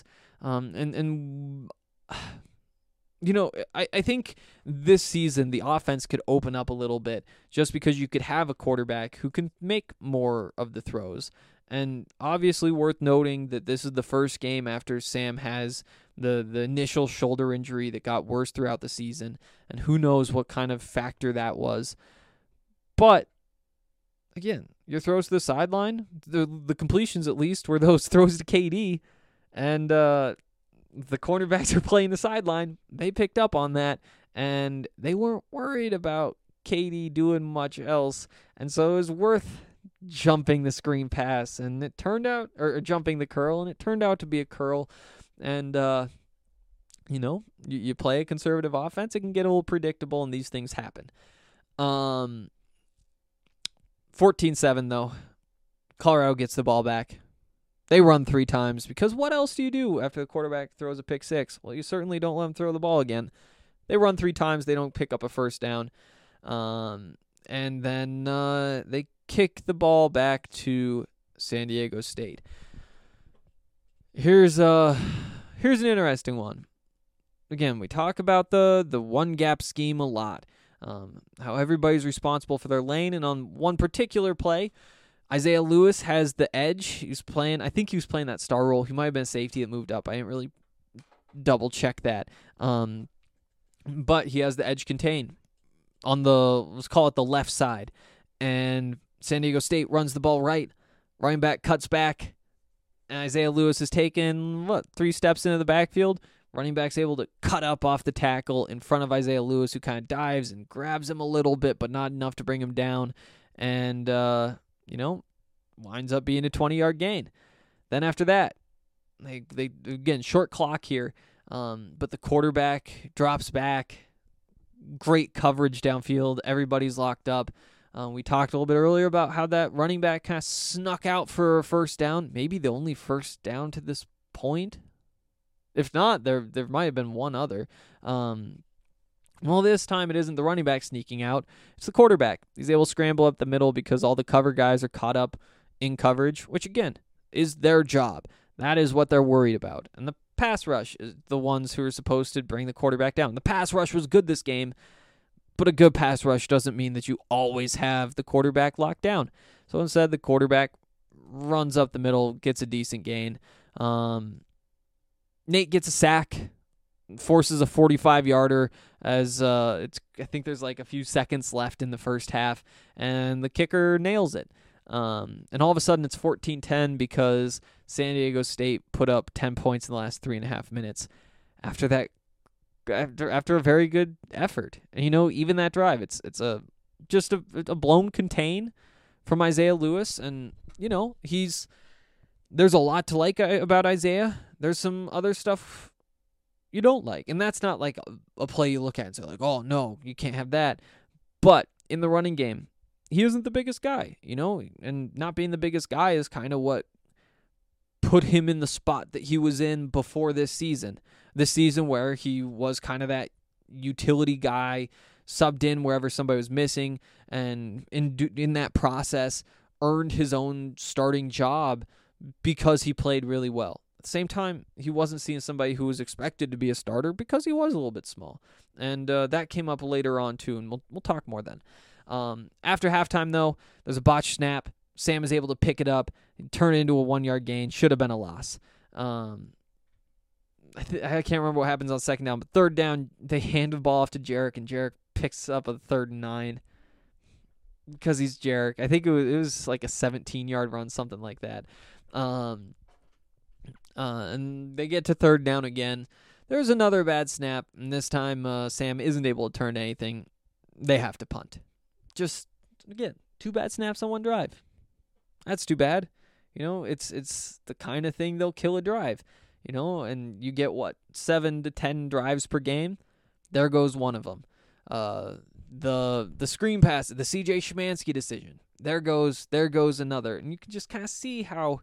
I think this season the offense could open up a little bit just because you could have a quarterback who can make more of the throws. And obviously worth noting that this is the first game after Sam has the initial shoulder injury that got worse throughout the season, and who knows what kind of factor that was. But again, your throws to the sideline, the completions at least were those throws to KD, and the cornerbacks are playing the sideline. They picked up on that, and they weren't worried about KD doing much else, and so it was worth jumping the screen pass, and it turned out, or jumping the curl, and it turned out to be a curl. And you play a conservative offense, it can get a little predictable, and these things happen. 14-7 though, Colorado gets the ball back. They run 3 times because what else do you do after the quarterback throws a pick six? Well, you certainly don't let them throw the ball again. They run 3 times. They don't pick up a first down. And then they kick the ball back to San Diego State. Here's an interesting one. Again, we talk about the one gap scheme a lot. How everybody's responsible for their lane, and on one particular play, Isaiah Lewis has the edge. I think he was playing that star role. He might have been a safety that moved up. I didn't really double check that. But he has the edge contain on let's call it the left side. And San Diego State runs the ball right. Running back cuts back. And Isaiah Lewis is taken, 3 steps into the backfield. Running back's able to cut up off the tackle in front of Isaiah Lewis, who kind of dives and grabs him a little bit, but not enough to bring him down. And, winds up being a 20-yard gain. Then after that, they again, short clock here, but the quarterback drops back. Great coverage downfield. Everybody's locked up. We talked a little bit earlier about how that running back kind of snuck out for a first down, maybe the only first down to this point. If not, there might have been one other. Well, this time it isn't the running back sneaking out. It's the quarterback. He's able to scramble up the middle because all the cover guys are caught up in coverage, which, again, is their job. That is what they're worried about. And the pass rush is the ones who are supposed to bring the quarterback down. The pass rush was good this game, but a good pass rush doesn't mean that you always have the quarterback locked down. So instead, the quarterback runs up the middle, gets a decent gain. Nate gets a sack, forces a 45-yarder as I think there's like a few seconds left in the first half, and the kicker nails it. And all of a sudden it's 14-10 because San Diego State put up 10 points in the last 3.5 minutes. After that, after a very good effort, and even that drive, it's just a blown contain from Isaiah Lewis, and there's a lot to like about Isaiah. There's some other stuff you don't like, and that's not like a play you look at and say like, oh no, you can't have that. But in the running game, he isn't the biggest guy, and not being the biggest guy is kind of what put him in the spot that he was in before this season. This season where he was kind of that utility guy, subbed in wherever somebody was missing, and in that process earned his own starting job because he played really well. At the same time, he wasn't seeing somebody who was expected to be a starter because he was a little bit small. And that came up later on too, and we'll talk more then. After halftime, though, there's a botched snap. Sam is able to pick it up and turn it into a 1-yard gain. Should have been a loss. I can't remember what happens on second down, but third down, they hand the ball off to Jarek, and Jarek picks up a 3rd and 9 because he's Jarek. I think it was like a 17-yard run, something like that. And they get to third down again. There's another bad snap, and this time Sam isn't able to turn anything. They have to punt. Just, again, 2 bad snaps on 1 drive. That's too bad. It's the kind of thing they'll kill a drive. And you get 7 to 10 drives per game. There goes one of them. The screen pass, the CJ Szymanski decision. There goes another. And you can just kind of see how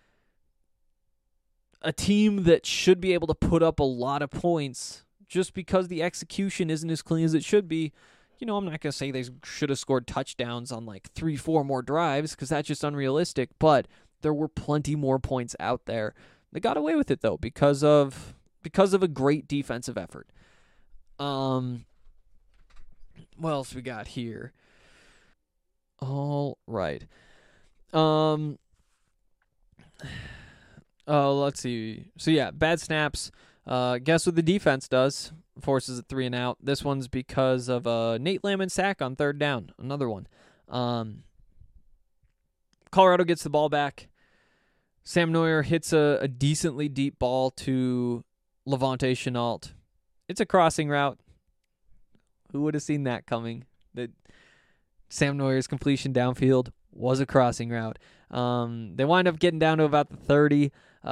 a team that should be able to put up a lot of points, just because the execution isn't as clean as it should be. I'm not going to say they should have scored touchdowns on 3-4 more drives, because that's just unrealistic, but there were plenty more points out there. They got away with it, though, because of a great defensive effort. What else we got here? All right. Let's see. So, yeah, bad snaps. Guess what the defense does? Forces a 3 and out. This one's because of a Nate Landman sack on 3rd down. Another one. Colorado gets the ball back. Sam Neuer hits a decently deep ball to Levante Chenault. It's a crossing route. Who would have seen that coming? That Sam Neuer's completion downfield was a crossing route. They wind up getting down to about the 30.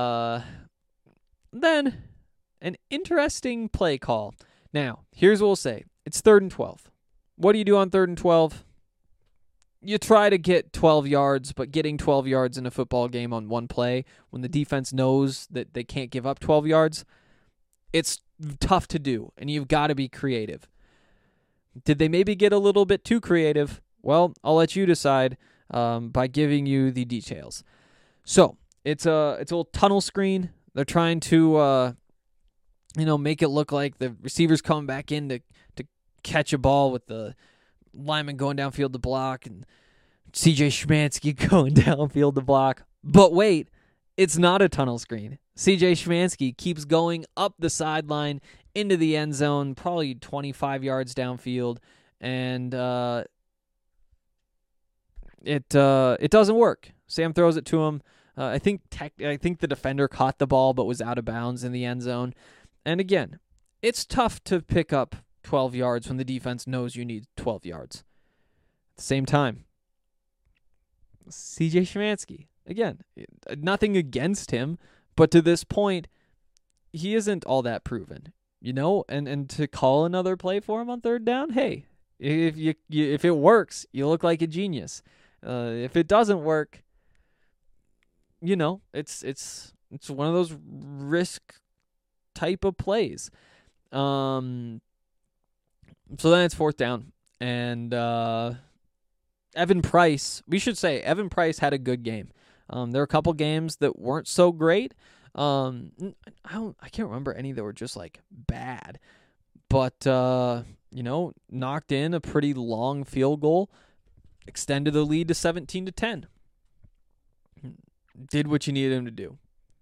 Then an interesting play call. Now, here's what we'll say. It's 3rd and 12. What do you do on 3rd and 12? You try to get 12 yards, but getting 12 yards in a football game on one play when the defense knows that they can't give up 12 yards, it's tough to do, and you've got to be creative. Did they maybe get a little bit too creative? Well, I'll let you decide by giving you the details. So, it's a little tunnel screen. They're trying to make it look like the receiver's coming back in to catch a ball with the lineman going downfield to block and CJ Szymanski going downfield to block. But wait, it's not a tunnel screen. CJ Szymanski keeps going up the sideline into the end zone, probably 25 yards downfield, and it doesn't work. Sam throws it to him. I think the defender caught the ball but was out of bounds in the end zone. And again, it's tough to pick up 12 yards when the defense knows you need 12 yards. At the same time, CJ Szymanski, again, nothing against him, but to this point, he isn't all that proven, and to call another play for him on 3rd down, hey, if it works, you look like a genius. If it doesn't work, it's one of those risk type of plays. So then it's 4th down, and Evan Price, we should say Evan Price had a good game. There were a couple games that weren't so great. I can't remember any that were just bad, but knocked in a pretty long field goal, extended the lead to 17-10. Did what you needed him to do.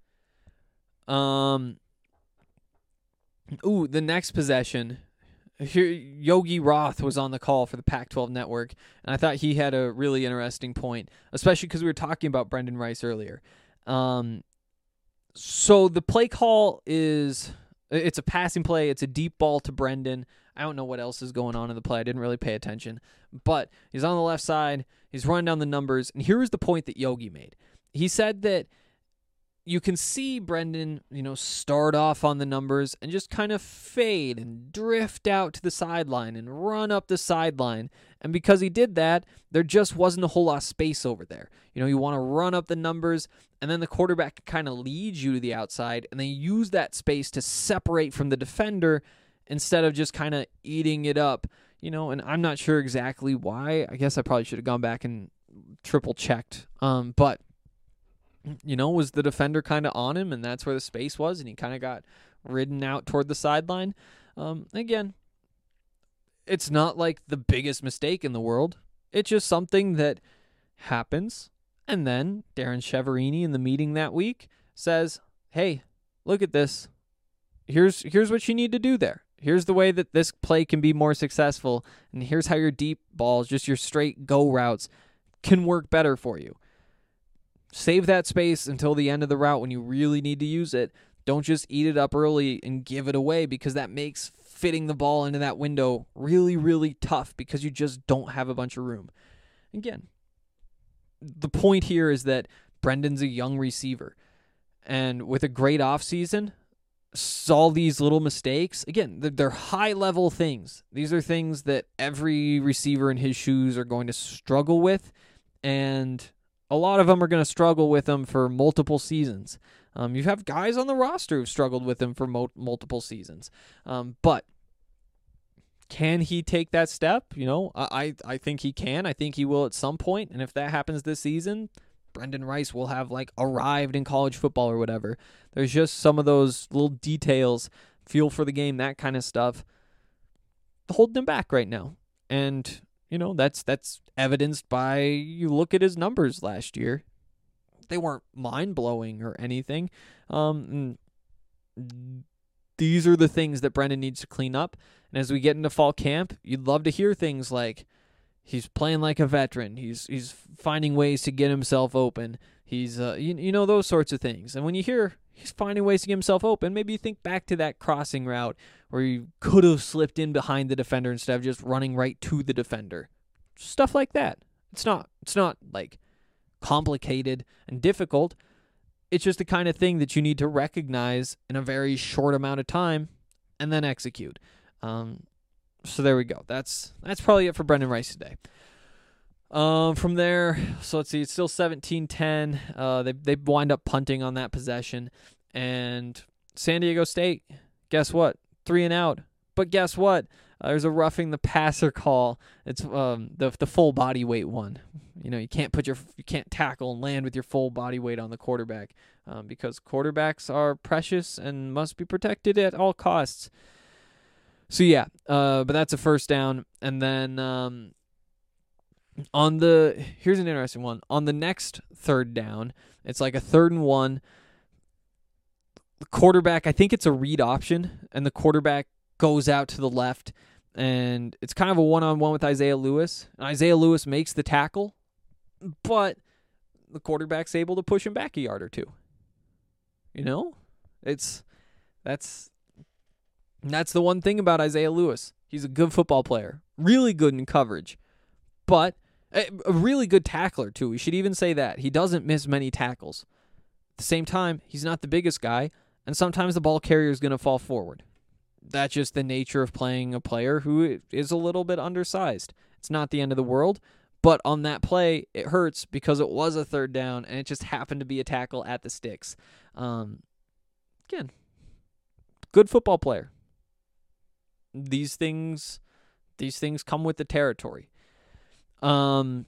The next possession, here Yogi Roth was on the call for the Pac-12 Network, and I thought he had a really interesting point, especially because we were talking about Brendan Rice earlier. So the play call it's a passing play. It's a deep ball to Brendan. I don't know what else is going on in the play. I didn't really pay attention. But he's on the left side. He's running down the numbers. And here was the point that Yogi made. He said that you can see Brendan, start off on the numbers and just kind of fade and drift out to the sideline and run up the sideline. And because he did that, there just wasn't a whole lot of space over there. You want to run up the numbers, and then the quarterback kind of leads you to the outside, and they use that space to separate from the defender instead of just kind of eating it up, and I'm not sure exactly why. I guess I probably should have gone back and triple checked. But was the defender kind of on him, and that's where the space was, and he kind of got ridden out toward the sideline. Again, it's not like the biggest mistake in the world. It's just something that happens. And then Darren Cheverini in the meeting that week says, hey, look at this. Here's what you need to do there. Here's the way that this play can be more successful, and here's how your deep balls, just your straight go routes, can work better for you. Save that space until the end of the route when you really need to use it. Don't just eat it up early and give it away, because that makes fitting the ball into that window really, really tough because you just don't have a bunch of room. Again, the point here is that Brendan's a young receiver, and with a great offseason, all these little mistakes, again, they're high-level things. These are things that every receiver in his shoes are going to struggle with, and a lot of them are going to struggle with them for multiple seasons. You have guys on the roster who've struggled with him for multiple seasons. But can he take that step? I think he can. I think he will at some point. And if that happens this season, Brendan Rice will have arrived in college football or whatever. There's just some of those little details, feel for the game, that kind of stuff, holding him back right now. And, that's evidenced by, you look at his numbers last year. They weren't mind-blowing or anything. These are the things that Brendan needs to clean up. And as we get into fall camp, you'd love to hear things like, he's playing like a veteran. He's finding ways to get himself open. He's those sorts of things. And when you hear he's finding ways to get himself open, maybe you think back to that crossing route where you could have slipped in behind the defender instead of just running right to the defender. Stuff like that. It's not complicated and difficult. It's just the kind of thing that you need to recognize in a very short amount of time and then execute. So there we go. That's probably it for Brendan Rice today. From there, so let's see, it's still 17-10. They wind up punting on that possession. And San Diego State, guess what? 3 and out. But guess what? There's a roughing the passer call. It's the full body weight one. You can't tackle and land with your full body weight on the quarterback because quarterbacks are precious and must be protected at all costs. So yeah, but that's a first down. And then here's an interesting one. On the next third down, it's like a 3rd and 1. The quarterback, I think it's a read option, and the quarterback goes out to the left, and it's kind of a one-on-one with Isaiah Lewis. And Isaiah Lewis makes the tackle, but the quarterback's able to push him back a yard or two. That's the one thing about Isaiah Lewis. He's a good football player, really good in coverage, but a really good tackler too. We should even say that. He doesn't miss many tackles. At the same time, he's not the biggest guy, and sometimes the ball carrier is going to fall forward. That's just the nature of playing a player who is a little bit undersized. It's not the end of the world, but on that play, it hurts because it was a 3rd down, and it just happened to be a tackle at the sticks. Again, good football player. These things come with the territory. Buffs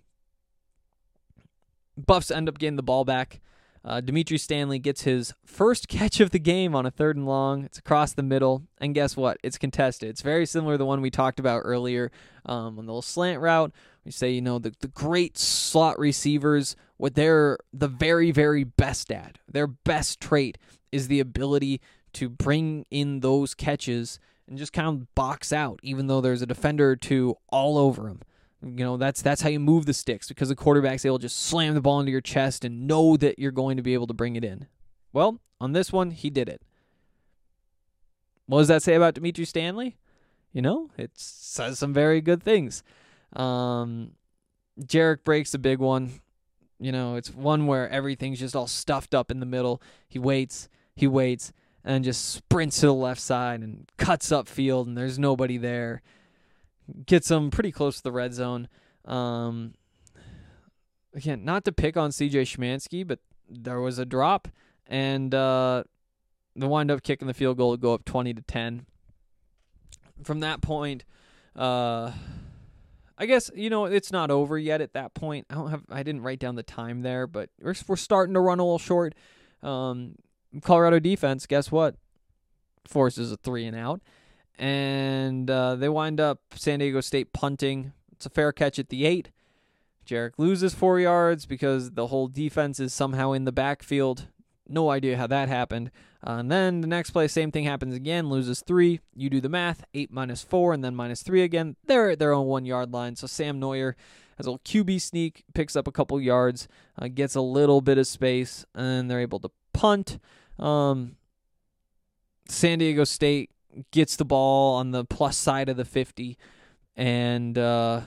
end up getting the ball back. Dimitri Stanley gets his first catch of the game on a 3rd and long. It's across the middle, and guess what? It's contested. It's very similar to the one we talked about earlier on the little slant route. We say, the great slot receivers, what they're the very, very best at, their best trait is the ability to bring in those catches and just kind of box out, even though there's a defender or two all over them. That's how you move the sticks, because the quarterback's able to just slam the ball into your chest and know that you're going to be able to bring it in. Well, on this one, he did it. What does that say about Dimitri Stanley? It says some very good things. Jarek breaks a big one. It's one where everything's just all stuffed up in the middle. He waits, and just sprints to the left side and cuts upfield, and there's nobody there. Gets him pretty close to the red zone. Again, not to pick on CJ Schmansky, but there was a drop, and they wind up kicking the field goal to go up 20-10. From that point, I guess, it's not over yet at that point. I didn't write down the time there, but we're starting to run a little short. Colorado defense, guess what? Forces a 3-and-out. And they wind up San Diego State punting. It's a fair catch at the 8. Jarek loses 4 yards because the whole defense is somehow in the backfield. No idea how that happened. And then the next play, same thing happens again, loses 3. You do the math, 8 minus 4, and then minus 3 again. They're at their own 1-yard line. So Sam Neuer has a little QB sneak, picks up a couple yards, gets a little bit of space, and they're able to punt. San Diego State gets the ball on the plus side of the 50, and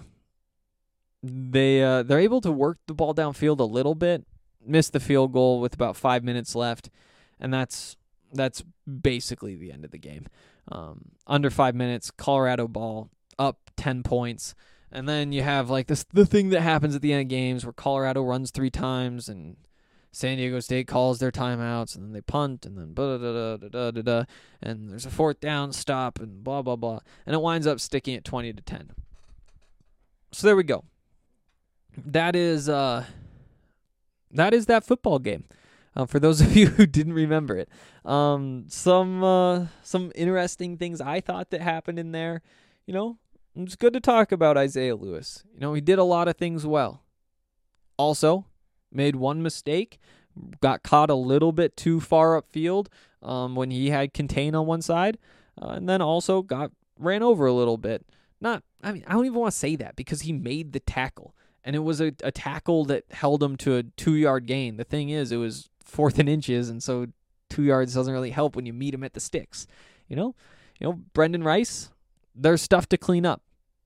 they're able to work the ball downfield a little bit, miss the field goal with about 5 minutes left, and that's basically the end of the game. Under 5 minutes, Colorado ball up 10 points, and then you have like the thing that happens at the end of games where Colorado runs 3 times and San Diego State calls their timeouts, and then they punt, and then and there's a 4th down stop, and blah blah blah, and it winds up sticking at 20-10. So there we go. That is that football game. For those of you who didn't remember it, some interesting things I thought that happened in there. It's good to talk about Isaiah Lewis. He did a lot of things well. Also, made one mistake, got caught a little bit too far upfield when he had contain on one side, and then also got ran over a little bit. I don't even want to say that because he made the tackle, and it was a tackle that held him to a 2-yard gain. The thing is, it was 4th and inches, and so 2 yards doesn't really help when you meet him at the sticks. Brendan Rice, there's stuff to clean up.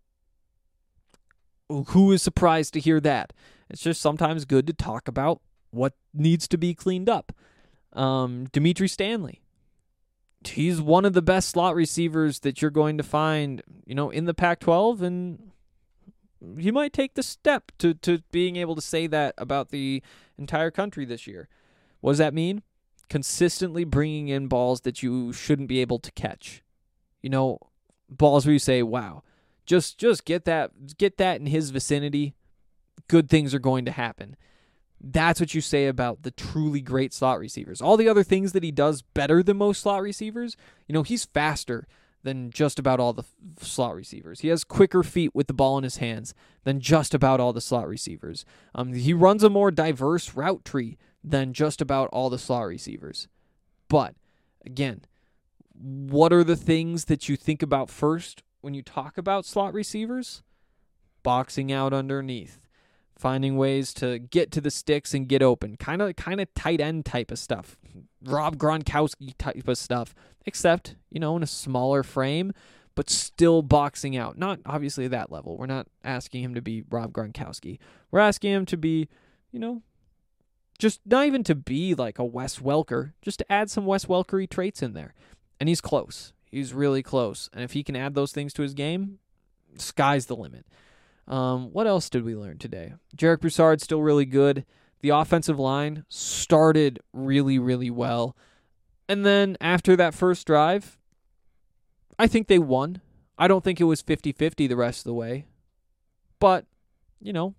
Who is surprised to hear that? It's just sometimes good to talk about what needs to be cleaned up. Dimitri Stanley. He's one of the best slot receivers that you're going to find, in the Pac-12, and he might take the step to being able to say that about the entire country this year. What does that mean? Consistently bringing in balls that you shouldn't be able to catch. Balls where you say, wow, just get that in his vicinity. Good things are going to happen. That's what you say about the truly great slot receivers. All the other things that he does better than most slot receivers, he's faster than just about all the slot receivers. He has quicker feet with the ball in his hands than just about all the slot receivers. He runs a more diverse route tree than just about all the slot receivers. But, again, what are the things that you think about first when you talk about slot receivers? Boxing out underneath. Finding ways to get to the sticks and get open. Kind of tight end type of stuff. Rob Gronkowski type of stuff. Except, in a smaller frame, but still boxing out. Not obviously that level. We're not asking him to be Rob Gronkowski. We're asking him to be, just not even to be like a Wes Welker, just to add some Wes Welker-y traits in there. And he's close. He's really close. And if he can add those things to his game, sky's the limit. What else did we learn today? Jarek Broussard's still really good. The offensive line started really, really well. And then after that first drive, I think they won. I don't think it was 50-50 the rest of the way. But, you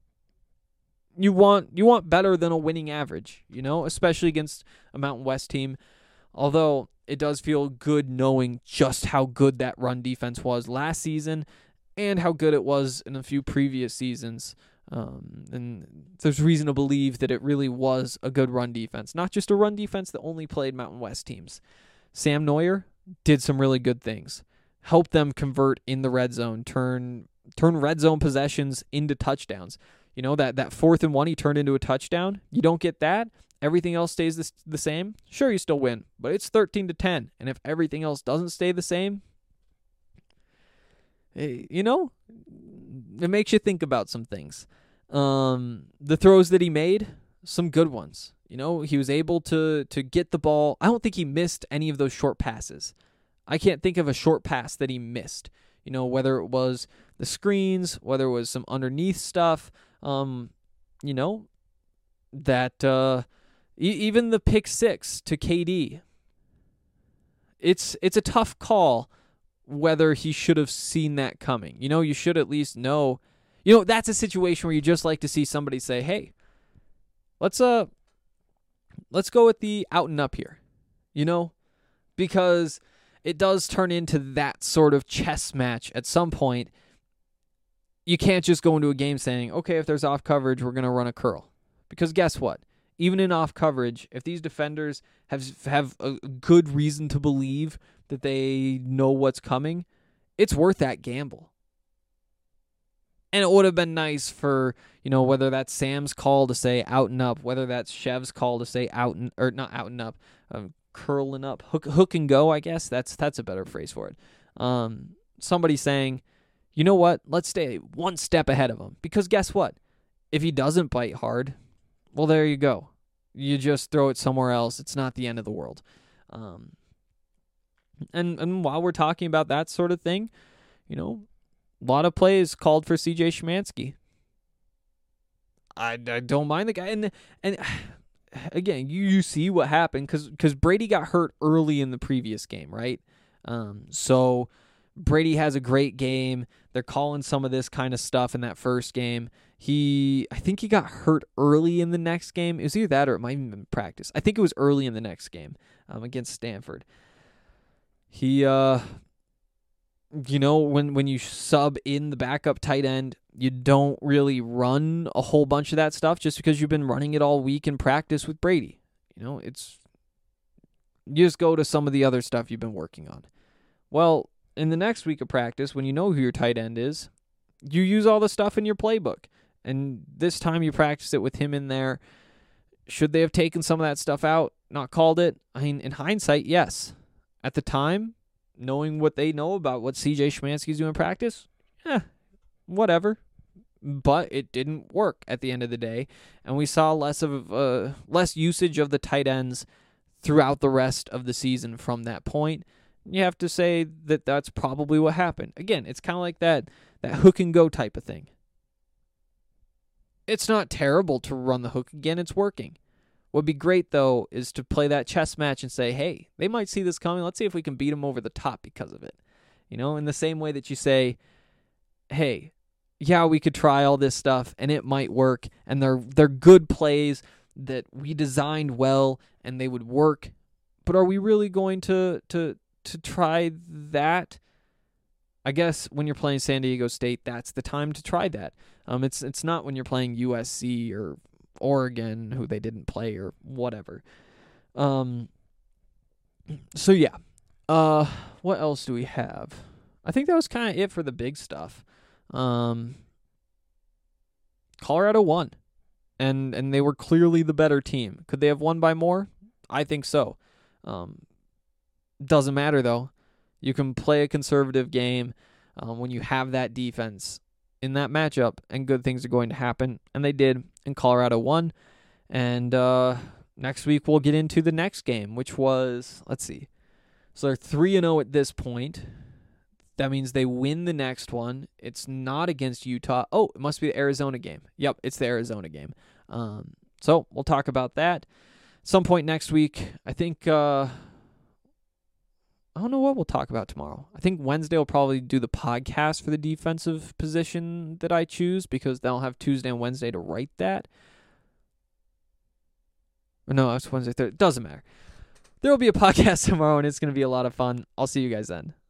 want better than a winning average, especially against a Mountain West team. Although it does feel good knowing just how good that run defense was last season and how good it was in a few previous seasons. And there's reason to believe that it really was a good run defense, not just a run defense that only played Mountain West teams. Sam Neuer did some really good things. Helped them convert in the red zone, turn red zone possessions into touchdowns. That 4th and 1 he turned into a touchdown. You don't get that. Everything else stays the same. Sure, you still win, but it's 13-10. And if everything else doesn't stay the same, it makes you think about some things. The throws that he made, some good ones. He was able to get the ball. I don't think he missed any of those short passes. I can't think of a short pass that he missed. Whether it was the screens, whether it was some underneath stuff, even the pick 6 to KD. It's a tough call whether he should have seen that coming. You should at least know. That's a situation where you just like to see somebody say, hey, let's go with the out and up here, because it does turn into that sort of chess match at some point. You can't just go into a game saying, okay, if there's off coverage, we're going to run a curl. Because guess what? Even in off coverage, if these defenders have a good reason to believe that they know what's coming, it's worth that gamble. And it would have been nice for, whether that's Sam's call to say out and up, whether that's Chev's call to say not out and up, curling up, hook and go, I guess. That's a better phrase for it. Somebody saying, you know what, let's stay one step ahead of him. Because guess what? If he doesn't bite hard, well, there you go. You just throw it somewhere else. It's not the end of the world. And while we're talking about that sort of thing, a lot of plays called for C.J. Szymanski. I don't mind the guy. And again, you see what happened because Brady got hurt early in the previous game, right? So Brady has a great game. They're calling some of this kind of stuff in that first game. I think he got hurt early in the next game. It was either that or it might have been practice. I think it was early in the next game against Stanford. He, when you sub in the backup tight end, you don't really run a whole bunch of that stuff just because you've been running it all week in practice with Brady. You just go to some of the other stuff you've been working on. Well, in the next week of practice, when you know who your tight end is, you use all the stuff in your playbook. And this time you practice it with him in there. Should they have taken some of that stuff out, not called it? I mean, in hindsight, yes. At the time, knowing what they know about what C.J. Szymanski's doing in practice, whatever. But it didn't work at the end of the day. And we saw less usage of the tight ends throughout the rest of the season from that point. You have to say that that's probably what happened. Again, it's kind of like that hook and go type of thing. It's not terrible to run the hook again. It's working. What would be great, though, is to play that chess match and say, hey, they might see this coming. Let's see if we can beat them over the top because of it. In the same way that you say, hey, yeah, we could try all this stuff and it might work. And they're good plays that we designed well and they would work. But are we really going to try that? I guess when you're playing San Diego State, that's the time to try that. It's not when you're playing USC or Oregon, who they didn't play or whatever. So yeah. What else do we have? I think that was kind of it for the big stuff. Colorado won, and they were clearly the better team. Could they have won by more? I think so. Doesn't matter though. You can play a conservative game when you have that defense in that matchup, and good things are going to happen. And they did, and Colorado won. And next week we'll get into the next game, which was, let's see. So they're 3-0 at this point. That means they win the next one. It's not against Utah. Oh, it must be the Arizona game. Yep, it's the Arizona game. So we'll talk about that some point next week. I think... I don't know what we'll talk about tomorrow. I think Wednesday will probably do the podcast for the defensive position that I choose because they'll have Tuesday and Wednesday to write that. Or no, it's Wednesday, Thursday. Doesn't matter. There will be a podcast tomorrow, and it's going to be a lot of fun. I'll see you guys then.